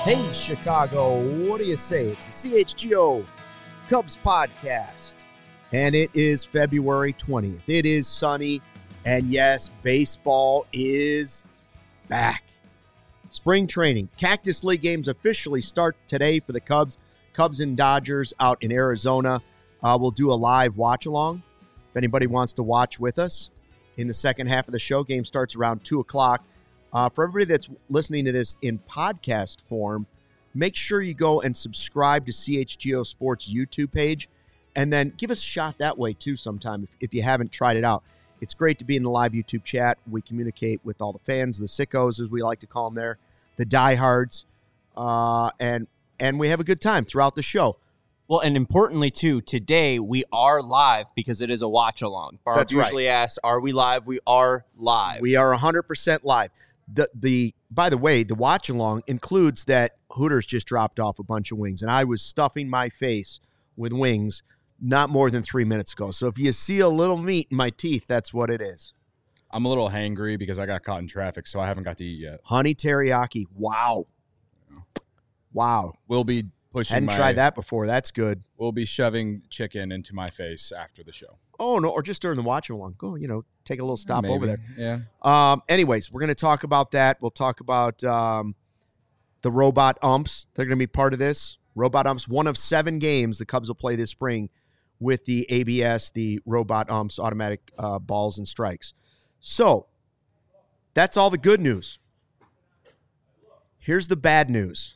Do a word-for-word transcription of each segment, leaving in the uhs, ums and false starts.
Hey, Chicago, what do you say? It's the C H G O Cubs podcast, and it is February twentieth. It is sunny, and yes, baseball is back. Spring training. Cactus League games officially start today for the Cubs. Cubs and Dodgers out in Arizona. Uh, we'll do a live watch-along if anybody wants to watch with us. In the second half of the show, game starts around two o'clock. Uh, for everybody that's listening to this in podcast form, make sure you go and subscribe to C H G O Sports YouTube page, and then give us a shot that way too sometime if, if you haven't tried it out. It's great to be in the live YouTube chat. We communicate with all the fans, the sickos, as we like to call them there, the diehards, uh, and and we have a good time throughout the show. Well, and importantly, too, today we are live because it is a watch-along. Barb That's usually right. asks, are we live? We are live. We are one hundred percent live. The the by the way, the watch along includes that Hooters just dropped off a bunch of wings, and I was stuffing my face with wings not more than three minutes ago. So if you see a little meat in my teeth, that's what it is. I'm a little hangry because I got caught in traffic, so I haven't got to eat yet. Honey teriyaki. Wow. Wow. We'll be pushing Hadn't my, tried that before. That's good. We'll be shoving chicken into my face after the show. Oh, no, or just during the watch along. Go, you know, take a little stop Maybe. over there. Yeah. Um. Anyways, we're going to talk about that. We'll talk about um, the robot umps. They're going to be part of this. Robot umps, one of seven games the Cubs will play this spring with the A B S, the robot umps, automatic uh, balls and strikes. So that's all the good news. Here's the bad news.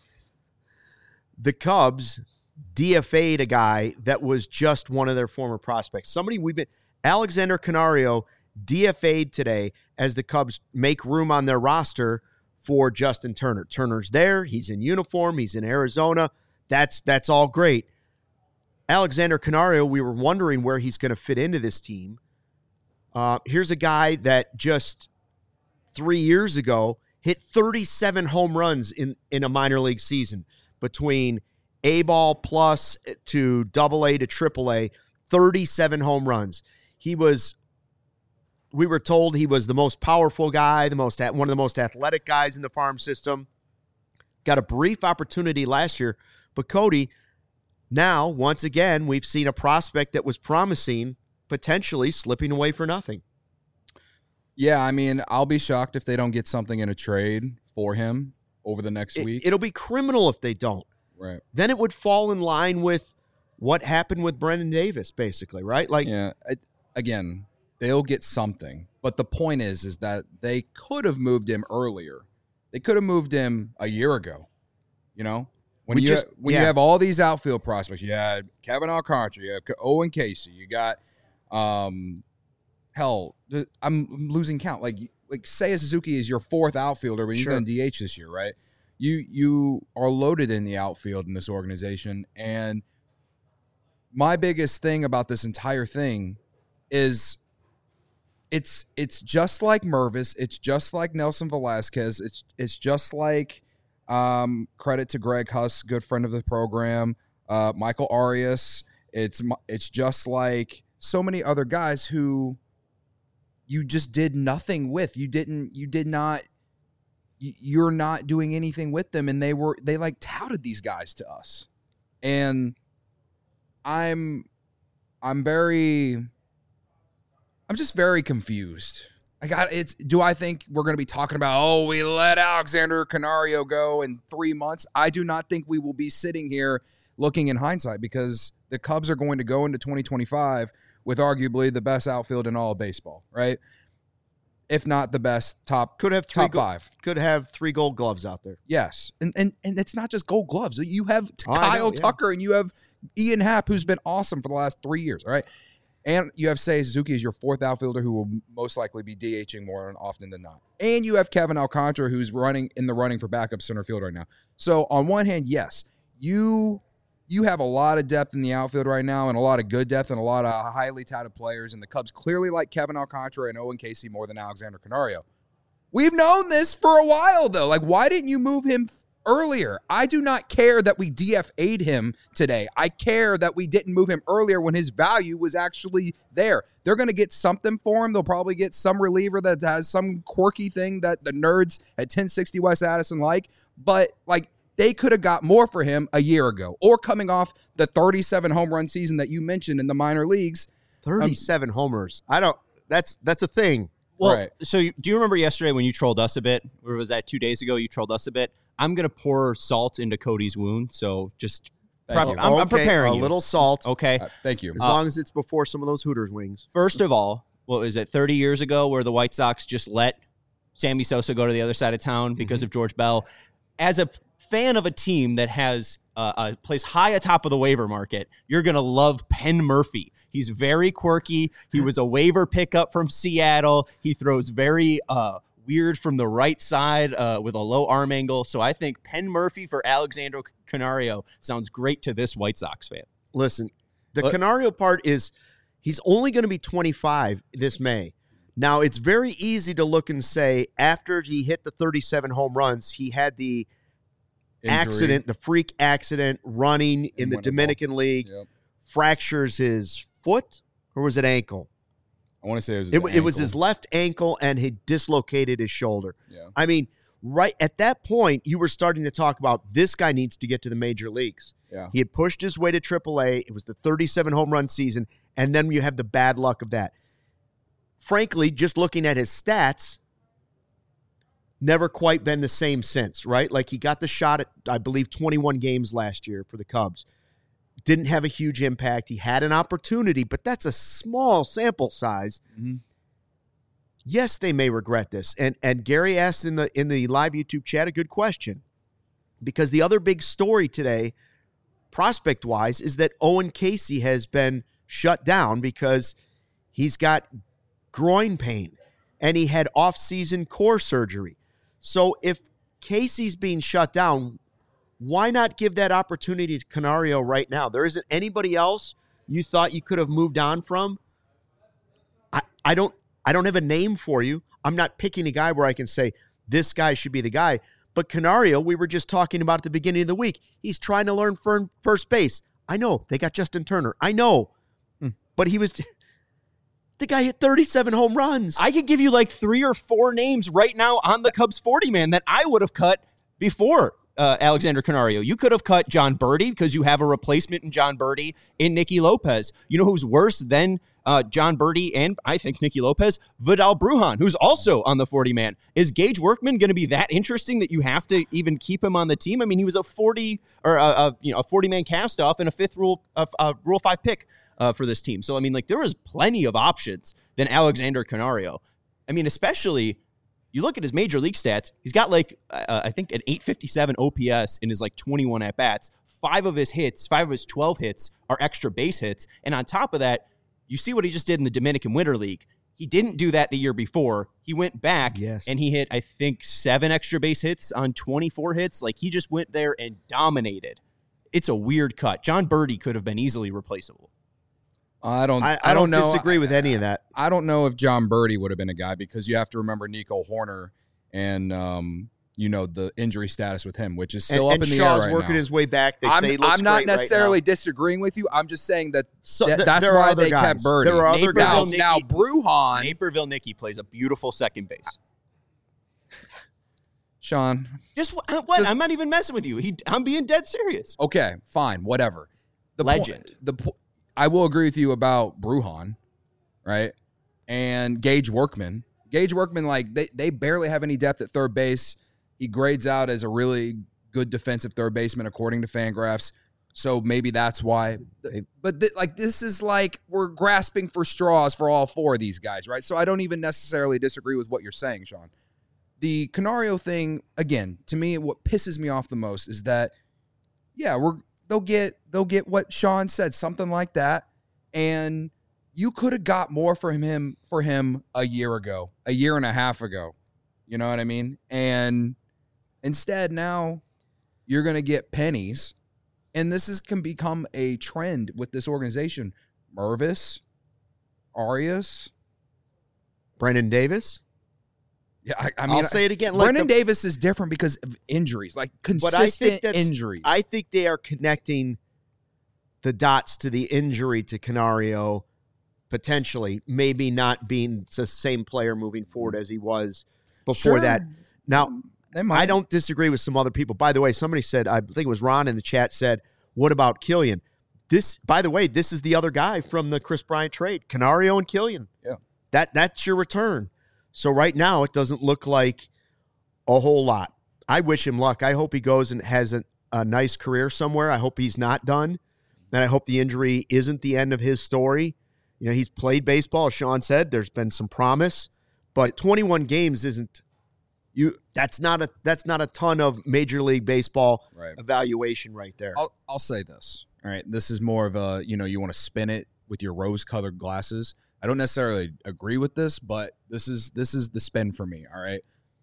The Cubs D F A'd a guy that was just one of their former prospects. Somebody we've been, Alexander Canario D F A'd today as the Cubs make room on their roster for Justin Turner. Turner's there. He's in uniform. He's in Arizona. That's that's all great. Alexander Canario, we were wondering where he's going to fit into this team. Uh, here's a guy that just three years ago hit thirty-seven home runs in, in a minor league season between A-ball plus to double A to triple A, thirty-seven home runs. He was, we were told he was the most powerful guy, the most one of the most athletic guys in the farm system. Got a brief opportunity last year, but Cody, now, once again, we've seen a prospect that was promising potentially slipping away for nothing. Yeah, I mean, I'll be shocked if they don't get something in a trade for him over the next It, week. it'll be criminal if they don't. Right. Then it would fall in line with what happened with Brendan Davis, basically, right? Like, Yeah. I, again, they'll get something. But the point is, is that they could have moved him earlier. They could have moved him a year ago, you know? When We you just- when yeah. you have all these outfield prospects, you had Kevin Alcantara, you have Owen Casey, you got um, hell, th- I'm losing count. Like like Seiya Suzuki is your fourth outfielder, but he's Sure. going to D H this year, right? You you are loaded in the outfield in this organization, and my biggest thing about this entire thing is it's it's just like Mervis, it's just like Nelson Velasquez, it's it's just like. Um, credit to Greg Huss, good friend of the program. Uh, Michael Arias. It's it's just like so many other guys who you just did nothing with. You didn't. You did not. You're not doing anything with them, and they were they like touted these guys to us, and I'm I'm very I'm just very confused. I got it's. Do I think we're going to be talking about, oh, we let Alexander Canario go in three months? I do not think we will be sitting here looking in hindsight because the Cubs are going to go into twenty twenty-five with arguably the best outfield in all of baseball, right? If not the best, top could have three top go- five. Could have three Gold Gloves out there. Yes, and and and it's not just Gold Gloves. You have Oh, I know, Kyle yeah. Tucker and you have Ian Happ, who's been awesome for the last three years. All right. And you have Seiya Suzuki as your fourth outfielder who will most likely be DHing more often than not. And you have Kevin Alcantara who's running in the running for backup center field right now. So on one hand, yes, you you have a lot of depth in the outfield right now and a lot of good depth and a lot of highly touted players. And the Cubs clearly like Kevin Alcantara and Owen Casey more than Alexander Canario. We've known this for a while, though. Like, why didn't you move him earlier? I do not care that we D F A'd him today. I care that we didn't move him earlier when his value was actually there. They're going to get something for him. They'll probably get some reliever that has some quirky thing that the nerds at ten sixty West Addison like. But, like, they could have got more for him a year ago, or coming off the thirty-seven home run season that you mentioned in the minor leagues. thirty-seven um, homers. I don't. That's that's a thing. Well, right. So you, do you remember yesterday when you trolled us a bit? Or was that two days ago? You trolled us a bit. I'm gonna pour salt into Cody's wound. So just prep, you. I'm, okay, I'm preparing a you. little salt. Okay. Uh, thank you. As Uh, long as it's before some of those Hooters wings. First of all, what was it? thirty years ago, where the White Sox just let Sammy Sosa go to the other side of town because Mm-hmm. of George Bell. As a fan of a team that has uh, uh, plays high atop of the waiver market, you're gonna love Penn Murphy. He's very quirky. He was a waiver pickup from Seattle. He throws very uh, weird from the right side uh, with a low arm angle. So I think Penn Murphy for Alexander Canario sounds great to this White Sox fan. Listen, the What? Canario part is he's only going to be twenty-five this May. Now, it's very easy to look and say after he hit the thirty-seven home runs, he had the Injury. accident, the freak accident running in the won the Dominican League, Yep. fractures his foot, or was it ankle? I want to say it was his It, it was ankle. his left ankle, and he dislocated his shoulder. Yeah. I mean, right at that point, you were starting to talk about this guy needs to get to the major leagues. Yeah. He had pushed his way to triple A. It was the thirty-seven home run season, and then you have the bad luck of that. Frankly, just looking at his stats, never quite been the same since, right? Like he got the shot at, I believe, twenty-one games last year for the Cubs. Didn't have a huge impact. He had an opportunity, but that's a small sample size. Mm-hmm. Yes, they may regret this. And and Gary asked in the in the live YouTube chat a good question. Because the other big story today, prospect-wise, is that Owen Casey has been shut down because he's got groin pain and he had off-season core surgery. So if Casey's being shut down, why not give that opportunity to Canario right now? There isn't anybody else you thought you could have moved on from? I, I don't I don't have a name for you. I'm not picking a guy where I can say this guy should be the guy. But Canario, we were just talking about at the beginning of the week. He's trying to learn for first base. I know. They got Justin Turner. I know. Hmm. But he was the guy hit thirty-seven home runs. I could give you like three or four names right now on the Cubs forty man that I would have cut before uh, Alexander Canario. You could have cut John Birdie because you have a replacement in John Birdie in Nicky Lopez. You know who's worse than uh, John Birdie and I think Nicky Lopez? Vidal Brujan, who's also on the forty man. Is Gage Workman going to be that interesting that you have to even keep him on the team? I mean, he was a forty or a, a you know a forty man cast off and a fifth rule uh, uh, rule five pick uh, for this team. So I mean, like there was plenty of options than Alexander Canario. I mean, especially. You look at his major league stats, he's got like, uh, I think, an eight fifty-seven O P S in his like twenty-one at-bats. Five of his hits, five of his twelve hits are extra base hits. And on top of that, you see what he just did in the Dominican Winter League. He didn't do that the year before. He went back Yes. and he hit, I think, seven extra base hits on twenty-four hits. Like he just went there and dominated. It's a weird cut. John Birdie could have been easily replaceable. I don't. I, I, I don't, don't know. disagree with any of that. I don't know if John Birdie would have been a guy because you have to remember Nico Horner and um, you know the injury status with him, which is still and up and in the Shaw's air right working now. his way back. They I'm, say he looks I'm not great right necessarily now. disagreeing with you. I'm just saying that So th- th- that's there are why other they guys. kept Birdie. There are other Naperville now, guys. now Nicky- Brujan, Naperville Nicky plays a beautiful second base. Sean. Just what? what? Just- I'm not even messing with you. He, I'm being dead serious. Okay, fine, whatever. The Legend. Point, the po- I will agree with you about Brujan, right? And Gage Workman. Gage Workman, like they they barely have any depth at third base. He grades out as a really good defensive third baseman according to Fangraphs. So maybe that's why. But th- like this is like we're grasping for straws for all four of these guys, right? So I don't even necessarily disagree with what you're saying, Sean. The Canario thing, again, to me, what pisses me off the most is that, yeah, we're they'll get they'll get what Sean said, something like that, and you could have got more for him for him a year ago, a year and a half ago. You know what I mean? And instead, now you're gonna get pennies, and this is can become a trend with this organization. Mervis, Arias, Brendan Davis. yeah, I, I mean, I'll say it again. Like Brendan the- Davis is different because of injuries, like But I think consistent that's- injuries. I think they are connecting the dots to the injury to Canario, potentially, maybe not being the same player moving forward as he was before Sure. that. Now, they might. I don't disagree with some other people. By the way, somebody said, I think it was Ron in the chat said, what about Killian? This, by the way, this is the other guy from the Chris Bryant trade, Canario and Killian. Yeah. That, that's your return. So right now it doesn't look like a whole lot. I wish him luck. I hope he goes and has a, a nice career somewhere. I hope he's not done. And I hope the injury isn't the end of his story. You know, he's played baseball, as Sean said. There's been some promise. But twenty-one games isn't you. That's not a that's not a ton of Major League Baseball right. evaluation right there. I'll I'll say this. All right, this is more of a you know you want to spin it with your rose-colored glasses. I don't necessarily agree with this, but this is this is the spin for me. All right,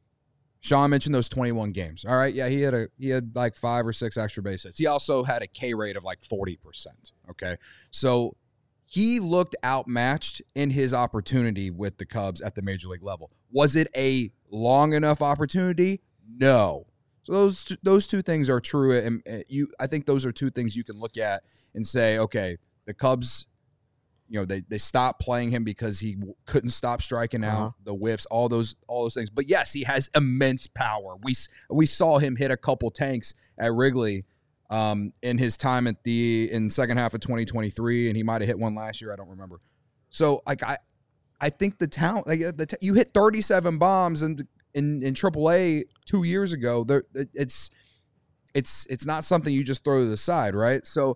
Sean mentioned those twenty-one games. All right, yeah, he had a he had like five or six extra base hits. He also had a K rate of like forty percent. Okay, so. He looked outmatched in his opportunity with the Cubs at the major league level. Was it a long enough opportunity? No. So those two, those two things are true, and you. I think those are two things you can look at and say, okay, the Cubs, you know, they they stopped playing him because he w- couldn't stop striking out, uh-huh. the whiffs, all those all those things. But yes, he has immense power. We we saw him hit a couple tanks at Wrigley. Um, in his time at the in second half of twenty twenty-three, and he might have hit one last year. I don't remember. So, like I, I think the talent, like the t- you hit thirty-seven bombs in in in triple A two years ago. There, it's it's it's not something you just throw to the side, right? So,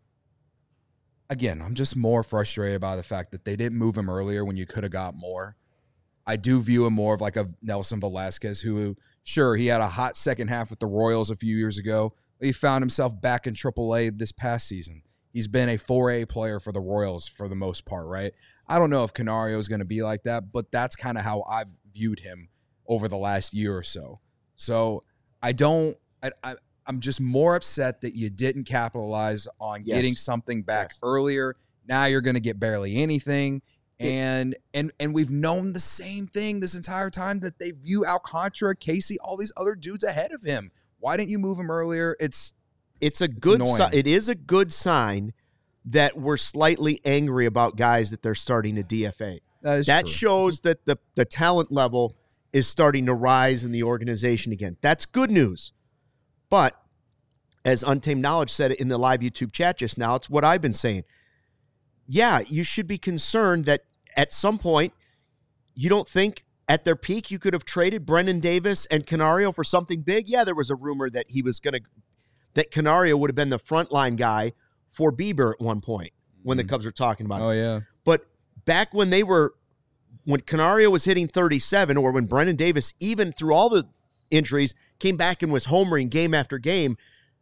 again, I'm just more frustrated by the fact that they didn't move him earlier when you could have got more. I do view him more of like a Nelson Velasquez, who, sure, he had a hot second half with the Royals a few years ago. He found himself back in triple A this past season. He's been a four A player for the Royals for the most part, right? I don't know if Canario is going to be like that, but that's kind of how I've viewed him over the last year or so. So I don't I, I, I'm just more upset that you didn't capitalize on yes. getting something back yes. earlier. Now you're going to get barely anything. And and and we've known the same thing this entire time, that they view Alcantara, Casey, all these other dudes ahead of him. Why didn't you move him earlier? It's it's a good si- it is a good sign that we're slightly angry about guys that they're starting to D F A. That, is that true. shows that the the talent level is starting to rise in the organization again. That's good news. But as Untamed Knowledge said in the live YouTube chat just now, it's what I've been saying. Yeah, you should be concerned that at some point you don't think at their peak, you could have traded Brennan Davis and Canario for something big. Yeah, there was a rumor that he was going to, that Canario would have been the frontline guy for Bieber at one point when the Cubs were talking about it. Oh, yeah. But back when they were, when Canario was hitting thirty-seven, or when Brennan Davis, even through all the injuries, came back and was homering game after game,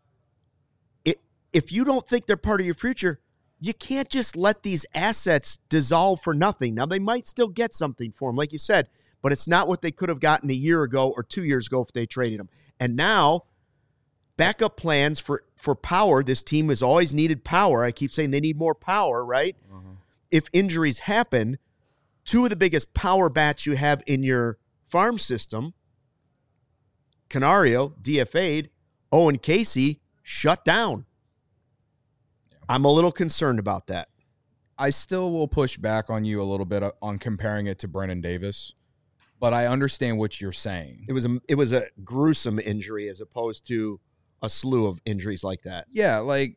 it, if you don't think they're part of your future, you can't just let these assets dissolve for nothing. Now, they might still get something for them, like you said, but it's not what they could have gotten a year ago or two years ago if they traded him. And now, backup plans for, for power. This team has always needed power. I keep saying they need more power, right? Uh-huh. If injuries happen, two of the biggest power bats you have in your farm system, Canario, D F A'd, Owen Casey, shut down. Yeah. I'm a little concerned about that. I still will push back on you a little bit on comparing it to Brennan Davis. But I understand what you're saying. It was a it was a gruesome injury as opposed to a slew of injuries like that. Yeah, like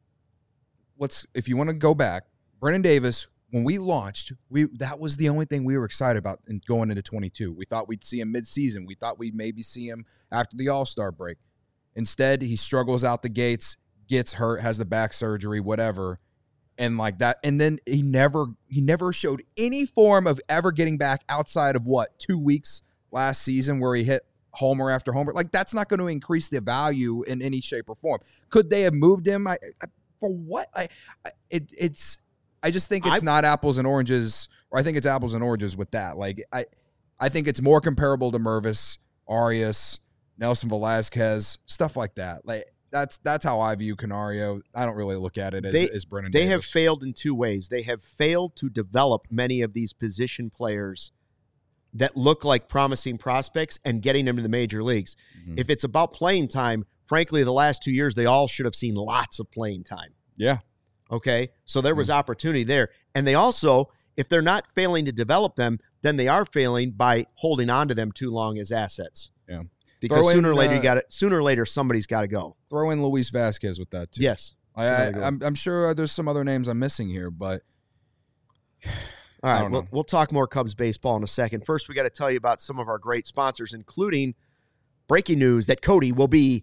let's if you want to go back, Brennan Davis, when we launched, we that was the only thing we were excited about in going into twenty-two. We thought we'd see him mid-season. We thought we'd maybe see him after the All-Star break. Instead, he struggles out the gates, gets hurt, has the back surgery, whatever. And like that, and then he never he never showed any form of ever getting back outside of what, two weeks last season where he hit homer after homer. Like, that's not going to increase the value in any shape or form. Could they have moved him? I, I for what? I, I it it's I just think it's I, not apples and oranges, or I think it's apples and oranges with that. Like I I think it's more comparable to Mervis, Arias, Nelson Velasquez, stuff like that. Like. That's that's how I view Canario. I don't really look at it as, they, as Brennan They Davis. have failed in two ways. They have failed to develop many of these position players that look like promising prospects and getting them to the major leagues. Mm-hmm. If it's about playing time, frankly, the last two years, they all should have seen lots of playing time. Yeah. Okay? So there was mm-hmm. opportunity there. And they also, if they're not failing to develop them, then they are failing by holding on to them too long as assets. Yeah. because Throw sooner in, or later uh, you got it. Sooner or later somebody's got to go. Throw in Luis Vasquez with that too. Yes. I, That's I, another good I'm, I'm sure there's some other names I'm missing here, but All I right, don't we'll, know. we'll talk more Cubs baseball in a second. First, we got to tell you about some of our great sponsors, including breaking news that Cody will be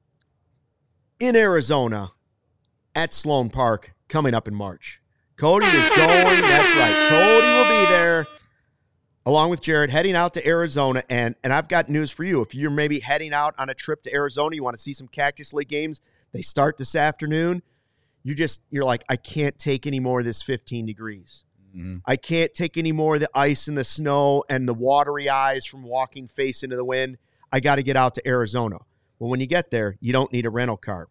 in Arizona at Sloan Park coming up in March. Cody is going. That's right. Cody will be there along with Jared, heading out to Arizona. And, and I've got news for you. If you're maybe heading out on a trip to Arizona, you want to see some Cactus League games, they start this afternoon. You just, you're like, I can't take any more of this fifteen degrees. Mhm. I can't take any more of the ice and the snow and the watery eyes from walking face into the wind. I got to get out to Arizona. Well, when you get there, you don't need a rental car.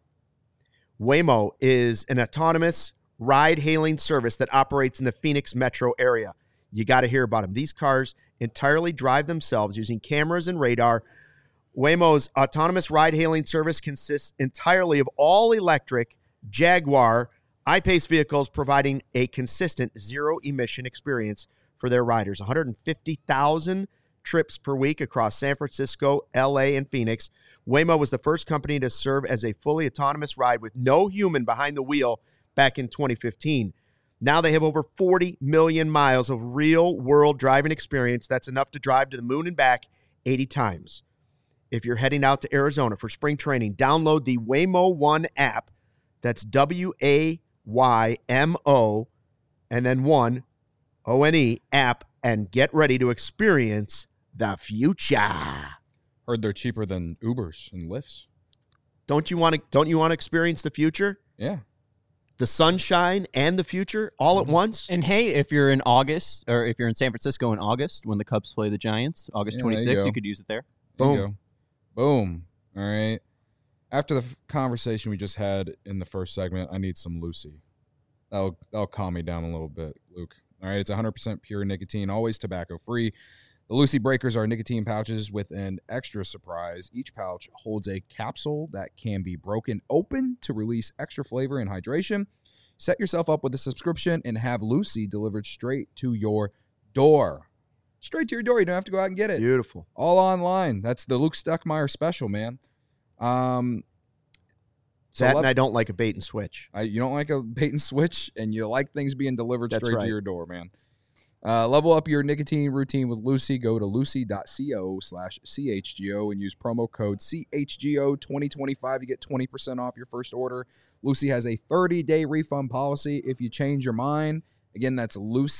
Waymo is an autonomous ride-hailing service that operates in the Phoenix metro area. You got to hear about them. These cars entirely drive themselves using cameras and radar. Waymo's autonomous ride-hailing service consists entirely of all-electric Jaguar I-Pace vehicles, providing a consistent zero-emission experience for their riders. one hundred fifty thousand trips per week across San Francisco, L A, and Phoenix. Waymo was the first company to serve as a fully autonomous ride with no human behind the wheel back in twenty fifteen. Now they have over forty million miles of real-world driving experience. That's enough to drive to the moon and back eighty times. If you're heading out to Arizona for spring training, download the Waymo One app. That's W A Y M O and then one, O N E, app, and get ready to experience the future. Heard they're cheaper than Ubers and Lyfts. Don't you want to don't you want to experience the future? Yeah. The sunshine and the future all at once? And hey, if you're in August, or if you're in San Francisco in August when the Cubs play the Giants, August Yeah, there you twenty-sixth, go. you could use it there. There you Boom. go. Boom. All right. After the f- conversation we just had in the first segment, I need some Lucy. That'll that'll calm me down a little bit, Luke. All right, it's one hundred percent pure nicotine, always tobacco-free. The Lucy Breakers are nicotine pouches with an extra surprise. Each pouch holds a capsule that can be broken open to release extra flavor and hydration. Set yourself up with a subscription and have Lucy delivered straight to your door. Straight to your door. You don't have to go out and get it. Beautiful. All online. That's the Luke Stuckmeyer special, man. Um, so That let- and I don't like a bait and switch. I, you don't like a bait and switch, and you like things being delivered That's straight right. to your door, man. Uh, level up your nicotine routine with Lucy. Go to lucy.co slash CHGO and use promo code C H G O twenty twenty-five. You get twenty percent off your first order. Lucy has a thirty-day refund policy if you change your mind. Again, that's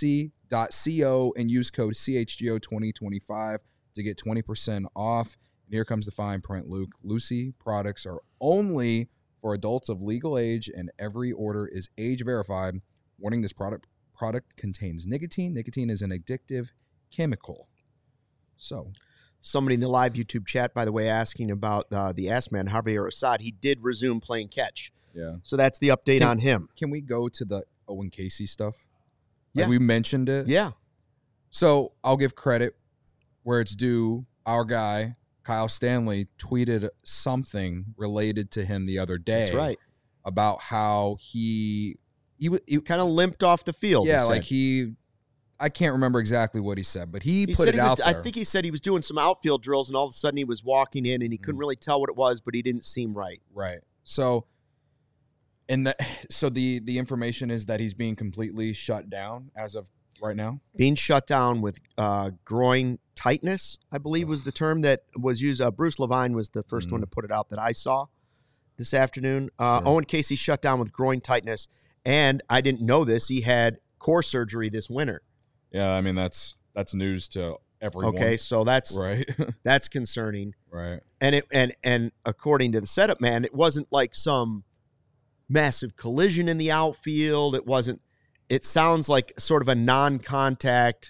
lucy.co and use code C H G O twenty twenty-five to get twenty percent off. And here comes the fine print, Luke. Lucy products are only for adults of legal age, and every order is age verified. Warning: this product product contains nicotine. Nicotine is an addictive chemical. So, Somebody in the live YouTube chat, by the way, asking about uh, the ass man, Javier Assad. He did resume playing catch. yeah. So that's the update Can- on him. Can we go to the Owen Casey stuff? Like Yeah. we mentioned it. Yeah. So I'll give credit where it's due. Our guy, Kyle Stanley, tweeted something related to him the other day. That's right. About how he he, w- he Kind of limped off the field. yeah, he like said. he I can't remember exactly what he said, but he, He put said it he was, out I there. think he said he was doing some outfield drills, and all of a sudden he was walking in, and he couldn't Mm. really tell what it was, but he didn't seem right. Right. So and the so the the information is that he's being completely shut down as of right now. Being shut down with uh, groin tightness, I believe was the term that was used. Uh, Bruce Levine was the first Mhm. one to put it out that I saw this afternoon. Uh, Sure. Owen Casey shut down with groin tightness, and I didn't know this. He had core surgery this winter. Yeah, I mean that's that's news to everyone. Okay, so that's Right. that's concerning. right. And it and and according to the setup man, it wasn't like some massive collision in the outfield. It wasn't. It sounds like sort of a non-contact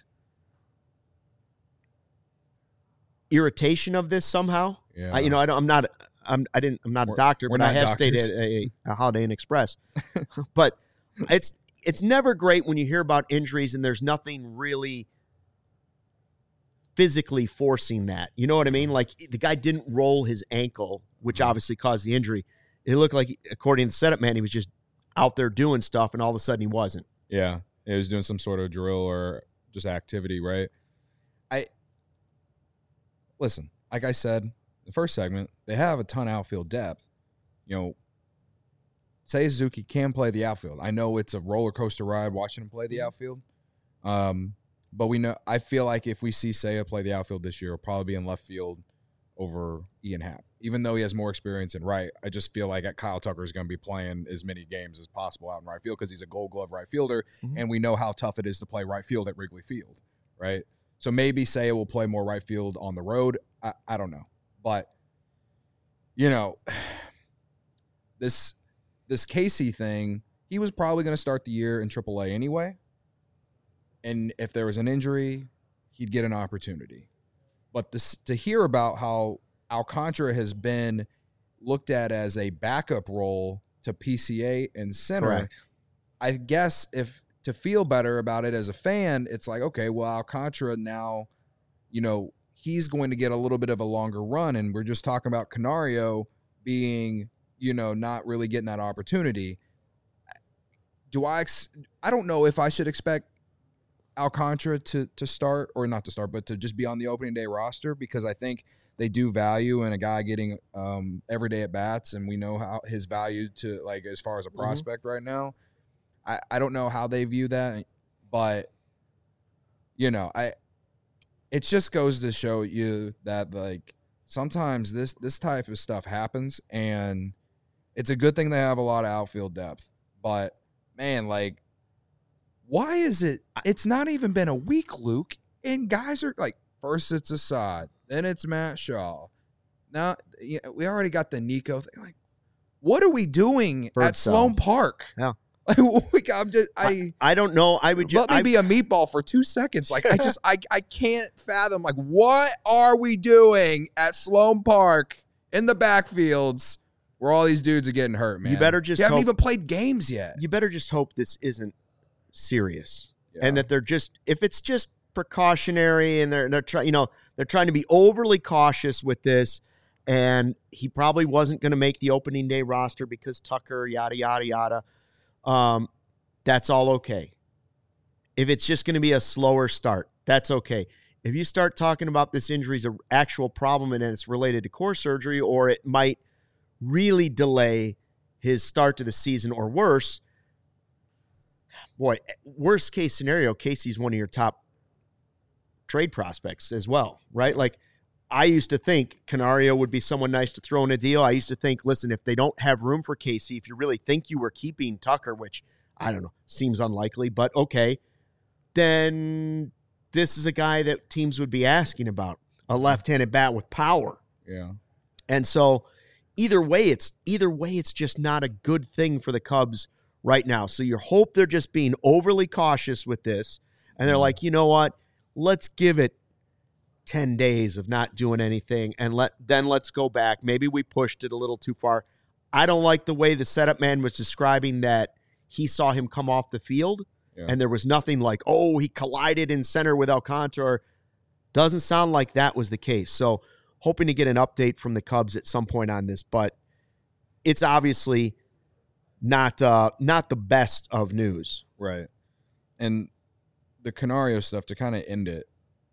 irritation of this somehow. Yeah. I, you know, I don't, I'm not. I'm. I didn't. I'm not a We're- doctor, we're but I not have stayed doctors. at a, a Holiday Inn Express. But it's it's never great when you hear about injuries and there's nothing really physically forcing that. You know what I mean? Like the guy didn't roll his ankle, which Mhm. obviously caused the injury. It looked like, according to the setup man, he was just out there doing stuff, and all of a sudden he wasn't. Yeah. He was doing some sort of drill or just activity, right? I listen, like I said, the first segment, they have a ton of outfield depth. You know, Seiya Suzuki can play the outfield. I know it's a roller coaster ride watching him play the outfield. Um, but we know I feel like if we see Seiya play the outfield this year, he'll probably be in left field over Ian Happ. Even though he has more experience in right, I just feel like Kyle Tucker is going to be playing as many games as possible out in right field because he's a Gold Glove right fielder, mm-hmm. and we know how tough it is to play right field at Wrigley Field, right? So maybe Seiya will play more right field on the road. I, I don't know. But, you know, this this Casey thing, he was probably going to start the year in triple A anyway. And if there was an injury, he'd get an opportunity. But this, to hear about how Alcantara has been looked at as a backup role to P C A and center, correct. I guess if to feel better about it as a fan, it's like, okay, well, Alcantara now, you know, he's going to get a little bit of a longer run. And we're just talking about Canario being, you know, not really getting that opportunity. Do I, ex- I don't know if I should expect Alcantara to to start, or not to start, but to just be on the opening day roster, because I think they do value in a guy getting um, everyday at bats, and we know how his value to, like, as far as a prospect mm-hmm. right now. I, I don't know how they view that, but you know, I it just goes to show you that, like, sometimes this this type of stuff happens, and it's a good thing they have a lot of outfield depth. But man, like, why is it? It's not even been a week, Luke, and guys are like, first it's Assad, then it's Matt Shaw. Now you know, we already got the Nico thing. Like, what are we doing Bird at Sloan Park? Yeah, like, I'm just I, I I don't know. I would just let me I, be a meatball for two seconds. Like, I just I I can't fathom, like, what are we doing at Sloan Park in the backfields where all these dudes are getting hurt, man? You better just you haven't hope, even played games yet. You better just hope this isn't serious, yeah. and that they're just, if it's just precautionary, and they're they're trying, you know, they're trying to be overly cautious with this, and he probably wasn't going to make the opening day roster because Tucker, yada yada yada. Um, that's all okay. If it's just going to be a slower start, that's okay. If you start talking about this injury is an actual problem and it's related to core surgery, or it might really delay his start to the season, or worse, boy, worst case scenario, Casey's one of your top trade prospects as well, right? Like, I used to think Canario would be someone nice to throw in a deal. I used to think, listen, if they don't have room for Casey, if you really think you were keeping Tucker, which I don't know, seems unlikely, but okay, then this is a guy that teams would be asking about, a left-handed bat with power. Yeah. And so either way, it's either way, it's just not a good thing for the Cubs right now. So you hope they're just being overly cautious with this, and they're like, you know what, let's give it ten days of not doing anything, and let then let's go back. Maybe we pushed it a little too far. I don't like the way the setup man was describing that he saw him come off the field, yeah. and there was nothing like, oh, he collided in center with Alcantara. Doesn't sound like that was the case. So hoping to get an update from the Cubs at some point on this, but it's obviously not uh, not the best of news. Right. And the Canario stuff, to kind of end it,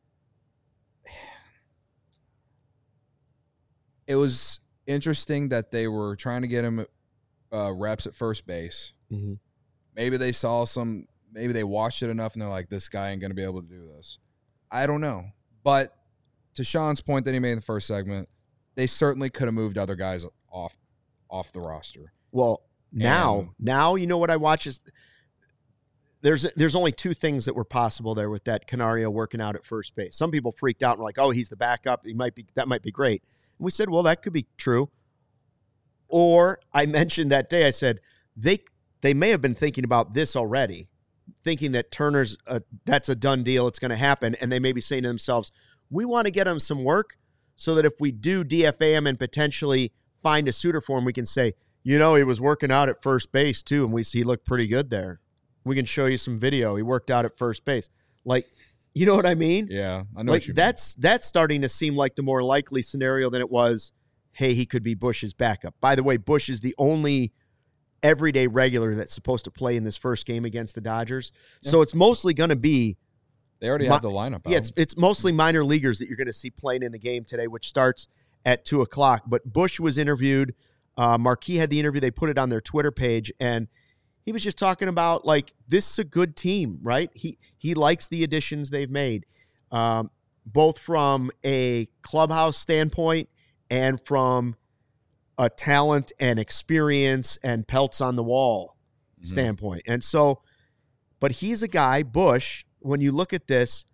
it was interesting that they were trying to get him uh, reps at first base. Mm-hmm. Maybe they saw some, maybe they watched it enough and they're like, this guy ain't going to be able to do this. I don't know. But to Sean's point that he made in the first segment, they certainly could have moved other guys off off the roster. Well, now, and, now you know what I watch is there's there's only two things that were possible there with that Canario working out at first base. Some people freaked out and were like, oh, he's the backup. He might be that might be great. And we said, well, that could be true. Or I mentioned that day, I said, they they may have been thinking about this already, thinking that Turner's, a, that's a done deal, it's going to happen, and they may be saying to themselves, we want to get him some work so that if we do D F A him and potentially find a suitor for him, we can say, you know, he was working out at first base too, and we see he looked pretty good there. We can show you some video. He worked out at first base. Like, you know what I mean? Yeah, I know like what you that's mean. That's starting to seem like the more likely scenario than it was, hey, he could be Bush's backup. By the way, Bush is the only everyday regular that's supposed to play in this first game against the Dodgers. Yeah. So it's mostly going to be They already mi- have the lineup out. Yeah, it's, it's mostly minor leaguers that you're going to see playing in the game today, which starts at two o'clock. But Bush was interviewed. Uh, Marquee had the interview. They put it on their Twitter page, and he was just talking about, like, this is a good team, right? He he likes the additions they've made, um, both from a clubhouse standpoint and from a talent and experience and pelts on the wall mm-hmm. standpoint. And so, but he's a guy, Bush, when you look at this,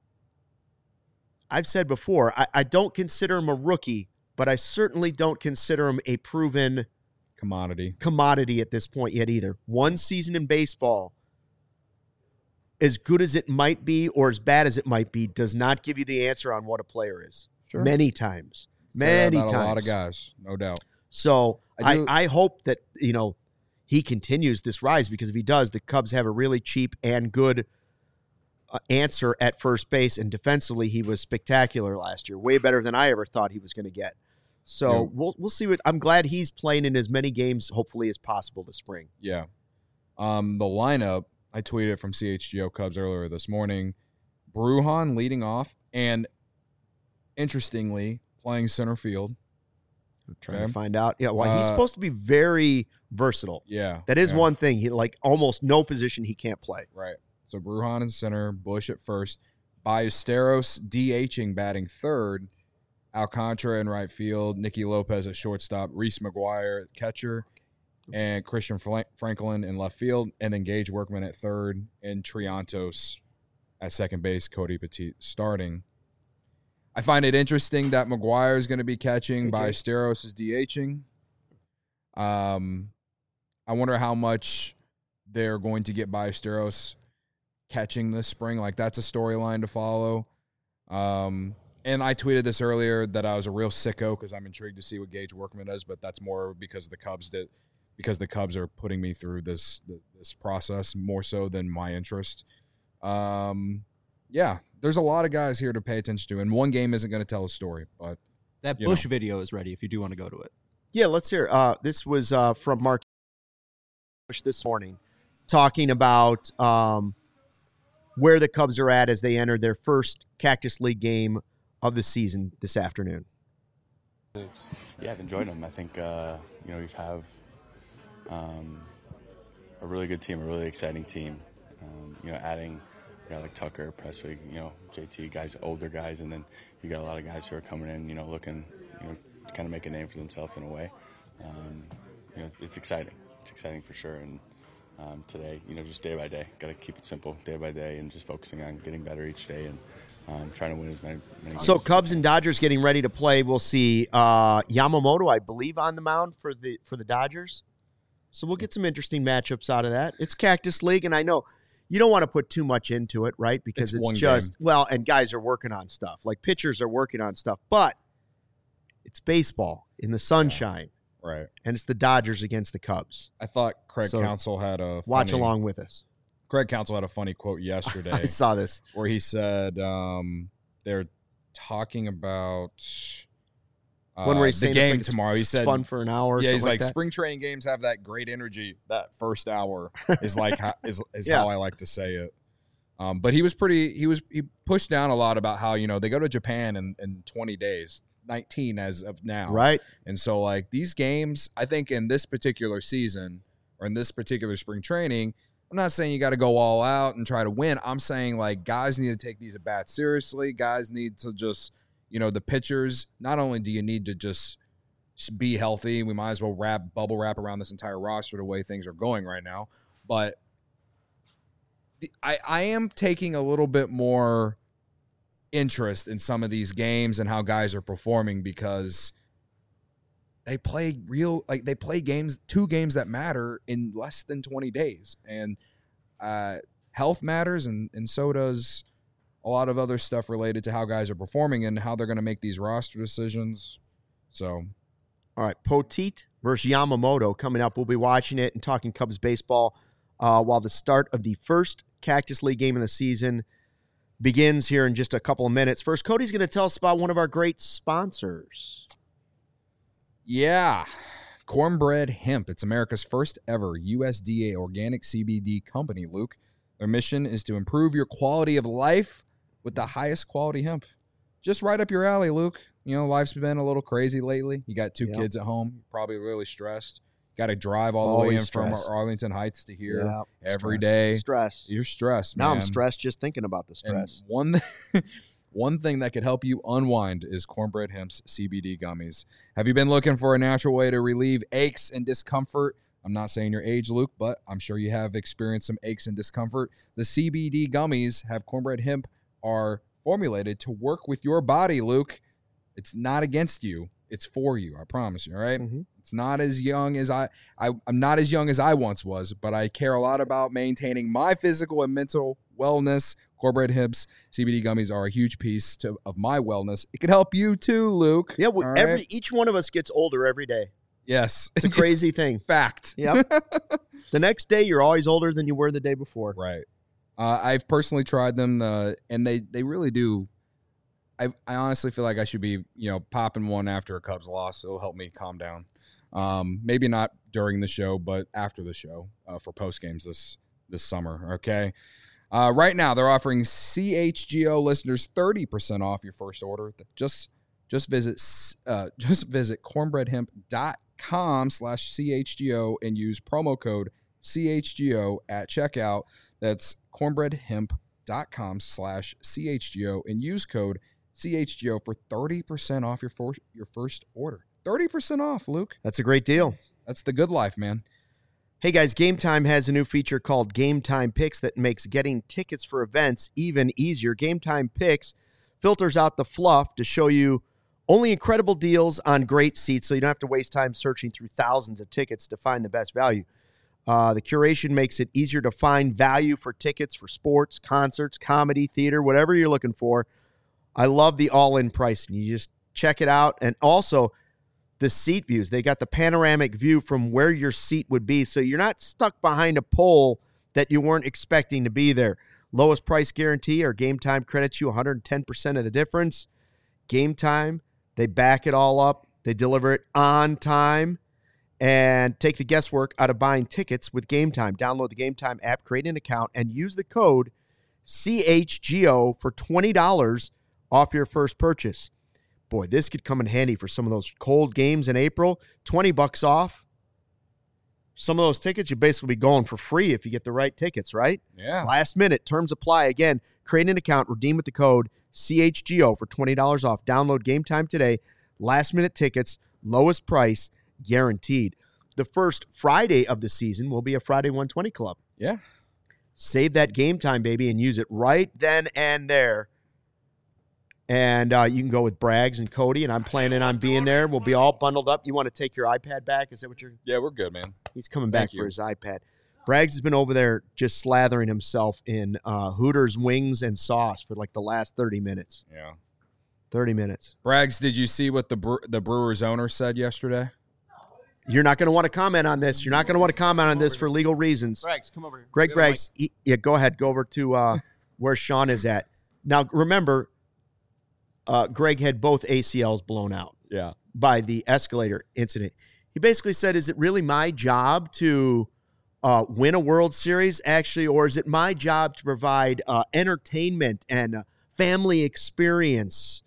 I've said before, I, I don't consider him a rookie, but I certainly don't consider him a proven commodity commodity at this point yet either. One season in baseball, as good as it might be or as bad as it might be, does not give you the answer on what a player is. Sure. Many times. Say Many that about times. A lot of guys, no doubt. So I, I, do, I hope that, you know, he continues this rise, because if he does, the Cubs have a really cheap and good uh, answer at first base. And defensively, he was spectacular last year, way better than I ever thought he was going to get. So yeah. we'll we'll see what. I'm glad he's playing in as many games, hopefully, as possible this spring. Yeah. Um, the lineup, I tweeted from C H G O Cubs earlier this morning. Brujan leading off, and interestingly, playing center field. I'm trying okay. to find out. Yeah, well, he's uh, supposed to be very versatile. Yeah. That is yeah. one thing. He like almost no position he can't play. Right. So Brujan in center, Bush at first, Ballesteros DHing, batting third, Alcantara in right field, Nicky Lopez at shortstop, Reese McGuire at catcher, and Christian Franklin in left field, and then Gage Workman at third, and Triantos at second base, Cody Petit starting. I find it interesting that McGuire is going to be catching, Ballesteros is DHing. Um, I wonder how much they're going to get Ballesteros catching this spring. Like, that's a storyline to follow. Um, and I tweeted this earlier that I was a real sicko because I'm intrigued to see what Gage Workman does, but that's more because the Cubs did, because the Cubs are putting me through this this process more so than my interest. Um, yeah, there's a lot of guys here to pay attention to, and one game isn't going to tell a story. But that Bush know. video is ready if you do want to go to it. Yeah, let's hear. Uh, this was uh, from Mark Bush this morning, talking about um, where the Cubs are at as they enter their first Cactus League game of the season this afternoon. Yeah, I've enjoyed them. I think uh, you know we have um, a really good team, a really exciting team. Um, you know, adding a guy like Tucker, Presley, you know, J T, guys, older guys, and then you got a lot of guys who are coming in, you know, looking, you know, to kind of make a name for themselves in a way. Um, you know, it's exciting. It's exciting for sure. And um, today, you know, just day by day, got to keep it simple, day by day, and just focusing on getting better each day and um, trying to win as many, many games. So Cubs and Dodgers getting ready to play. We'll see uh, Yamamoto, I believe, on the mound for the for the Dodgers. So we'll get some interesting matchups out of that. It's Cactus League, and I know you don't want to put too much into it, right? Because it's, it's just, game. well, and guys are working on stuff. Like pitchers are working on stuff. But it's baseball in the sunshine. Yeah, right. And it's the Dodgers against the Cubs. I thought Craig so Counsell had a funny, watch along with us. Craig Counsell had a funny quote yesterday. I saw this. Where he said um, they're talking about uh, One where he's the saying game it's like tomorrow. He it's said fun for an hour. Or yeah, he's like, like that. spring training games have that great energy. That first hour is like how, is is yeah. how I like to say it. Um, but he was pretty. He was he pushed down a lot about how, you know, they go to Japan in, in twenty days, nineteen as of now, right? And so like these games, I think in this particular season or in this particular spring training, I'm not saying you got to go all out and try to win. I'm saying like guys need to take these at bats seriously. Guys need to just, you know, the pitchers. Not only do you need to just be healthy, we might as well wrap bubble wrap around this entire roster the way things are going right now, but the, I I am taking a little bit more interest in some of these games and how guys are performing because they play real, like they play games, two games that matter in less than twenty days. And uh, health matters, and, and so does a lot of other stuff related to how guys are performing and how they're going to make these roster decisions. So, all right, Poteet versus Yamamoto coming up. We'll be watching it and talking Cubs baseball uh, while the start of the first Cactus League game of the season begins here in just a couple of minutes. First, Cody's going to tell us about one of our great sponsors. Yeah, Cornbread Hemp. It's America's first ever U S D A organic C B D company, Luke. Their mission is to improve your quality of life with the highest quality hemp. Just right up your alley, Luke. you know, life's been a little crazy lately. You got two Yep. kids at home, you're probably really stressed. Got to drive all the way in Always from stressed. Arlington Heights to here Yeah, every stress. day. Stress. You're stressed, Now man. I'm stressed just thinking about the And stress. one, one thing that could help you unwind is Cornbread Hemp's C B D gummies. Have you been looking for a natural way to relieve aches and discomfort? I'm not saying your age, Luke, but I'm sure you have experienced some aches and discomfort. The C B D gummies have Cornbread Hemp are formulated to work with your body, Luke. It's not against you. It's for you. I promise you. All right. Mhm. It's not as young as I, I, I'm not as young as I once was, but I care a lot about maintaining my physical and mental wellness. Cornbread Hemp's C B D gummies are a huge piece to, of my wellness. It can help you too, Luke. Yeah, we, All every right? each one of us gets older every day. Yes. It's a crazy thing. Fact. Yep. The next day, you're always older than you were the day before. Right. Uh, I've personally tried them, uh, and they, they really do. I, I honestly feel like I should be, you know, popping one after a Cubs loss. It'll help me calm down. Um, maybe not during the show, but after the show uh, for post games this this summer. Okay. Uh, right now, they're offering C H G O listeners thirty percent off your first order. Just just visit uh, just visit cornbreadhemp.com slash CHGO and use promo code C H G O at checkout. That's cornbreadhemp.com slash CHGO and use code C H G O for thirty percent off your, for, your first order. thirty percent off, Luke. That's a great deal. That's the good life, man. Hey guys, Game Time has a new feature called Game Time Picks that makes getting tickets for events even easier. Game Time Picks filters out the fluff to show you only incredible deals on great seats, so you don't have to waste time searching through thousands of tickets to find the best value. Uh, the curation makes it easier to find value for tickets for sports, concerts, comedy, theater, whatever you're looking for. I love the all-in pricing. You just check it out. And also, the seat views. They got the panoramic view from where your seat would be, so you're not stuck behind a pole that you weren't expecting to be there. Lowest price guarantee or Game Time credits you one hundred ten percent of the difference. Game Time, they back it all up. They deliver it on time and take the guesswork out of buying tickets with Game Time. Download the Game Time app, create an account, and use the code C H G O for twenty dollars off your first purchase. Boy, this could come in handy for some of those cold games in April. twenty bucks off. Some of those tickets, you basically be going for free if you get the right tickets, right? Yeah. Last minute. Terms apply. Again, create an account, redeem with the code C H G O for twenty dollars off. Download Game Time today. Last minute tickets, lowest price, guaranteed. The first Friday of the season will be a Friday one twenty Club. Yeah. Save that Game Time, baby, and use it right then and there. And uh, you can go with Braggs and Cody, and I'm planning on being there. We'll be all bundled up. You want to take your iPad back? Is that what you're... Yeah, we're good, man. He's coming back Thank for you. his iPad. Braggs has been over there just slathering himself in uh, Hooters wings and sauce for like the last thirty minutes. Yeah. thirty minutes. Braggs, did you see what the Bre- the Brewers owner said yesterday? You're not going to want to comment on this. You're not going to want to comment on this for legal reasons. Braggs, come over here. Greg We have a Braggs, he, yeah, go ahead. Go over to uh, where Sean is at. Now, remember, uh, Greg had both A C Ls blown out Yeah. by the escalator incident. He basically said, is it really my job to uh, win a World Series, actually, or is it my job to provide uh, entertainment and uh, family experience,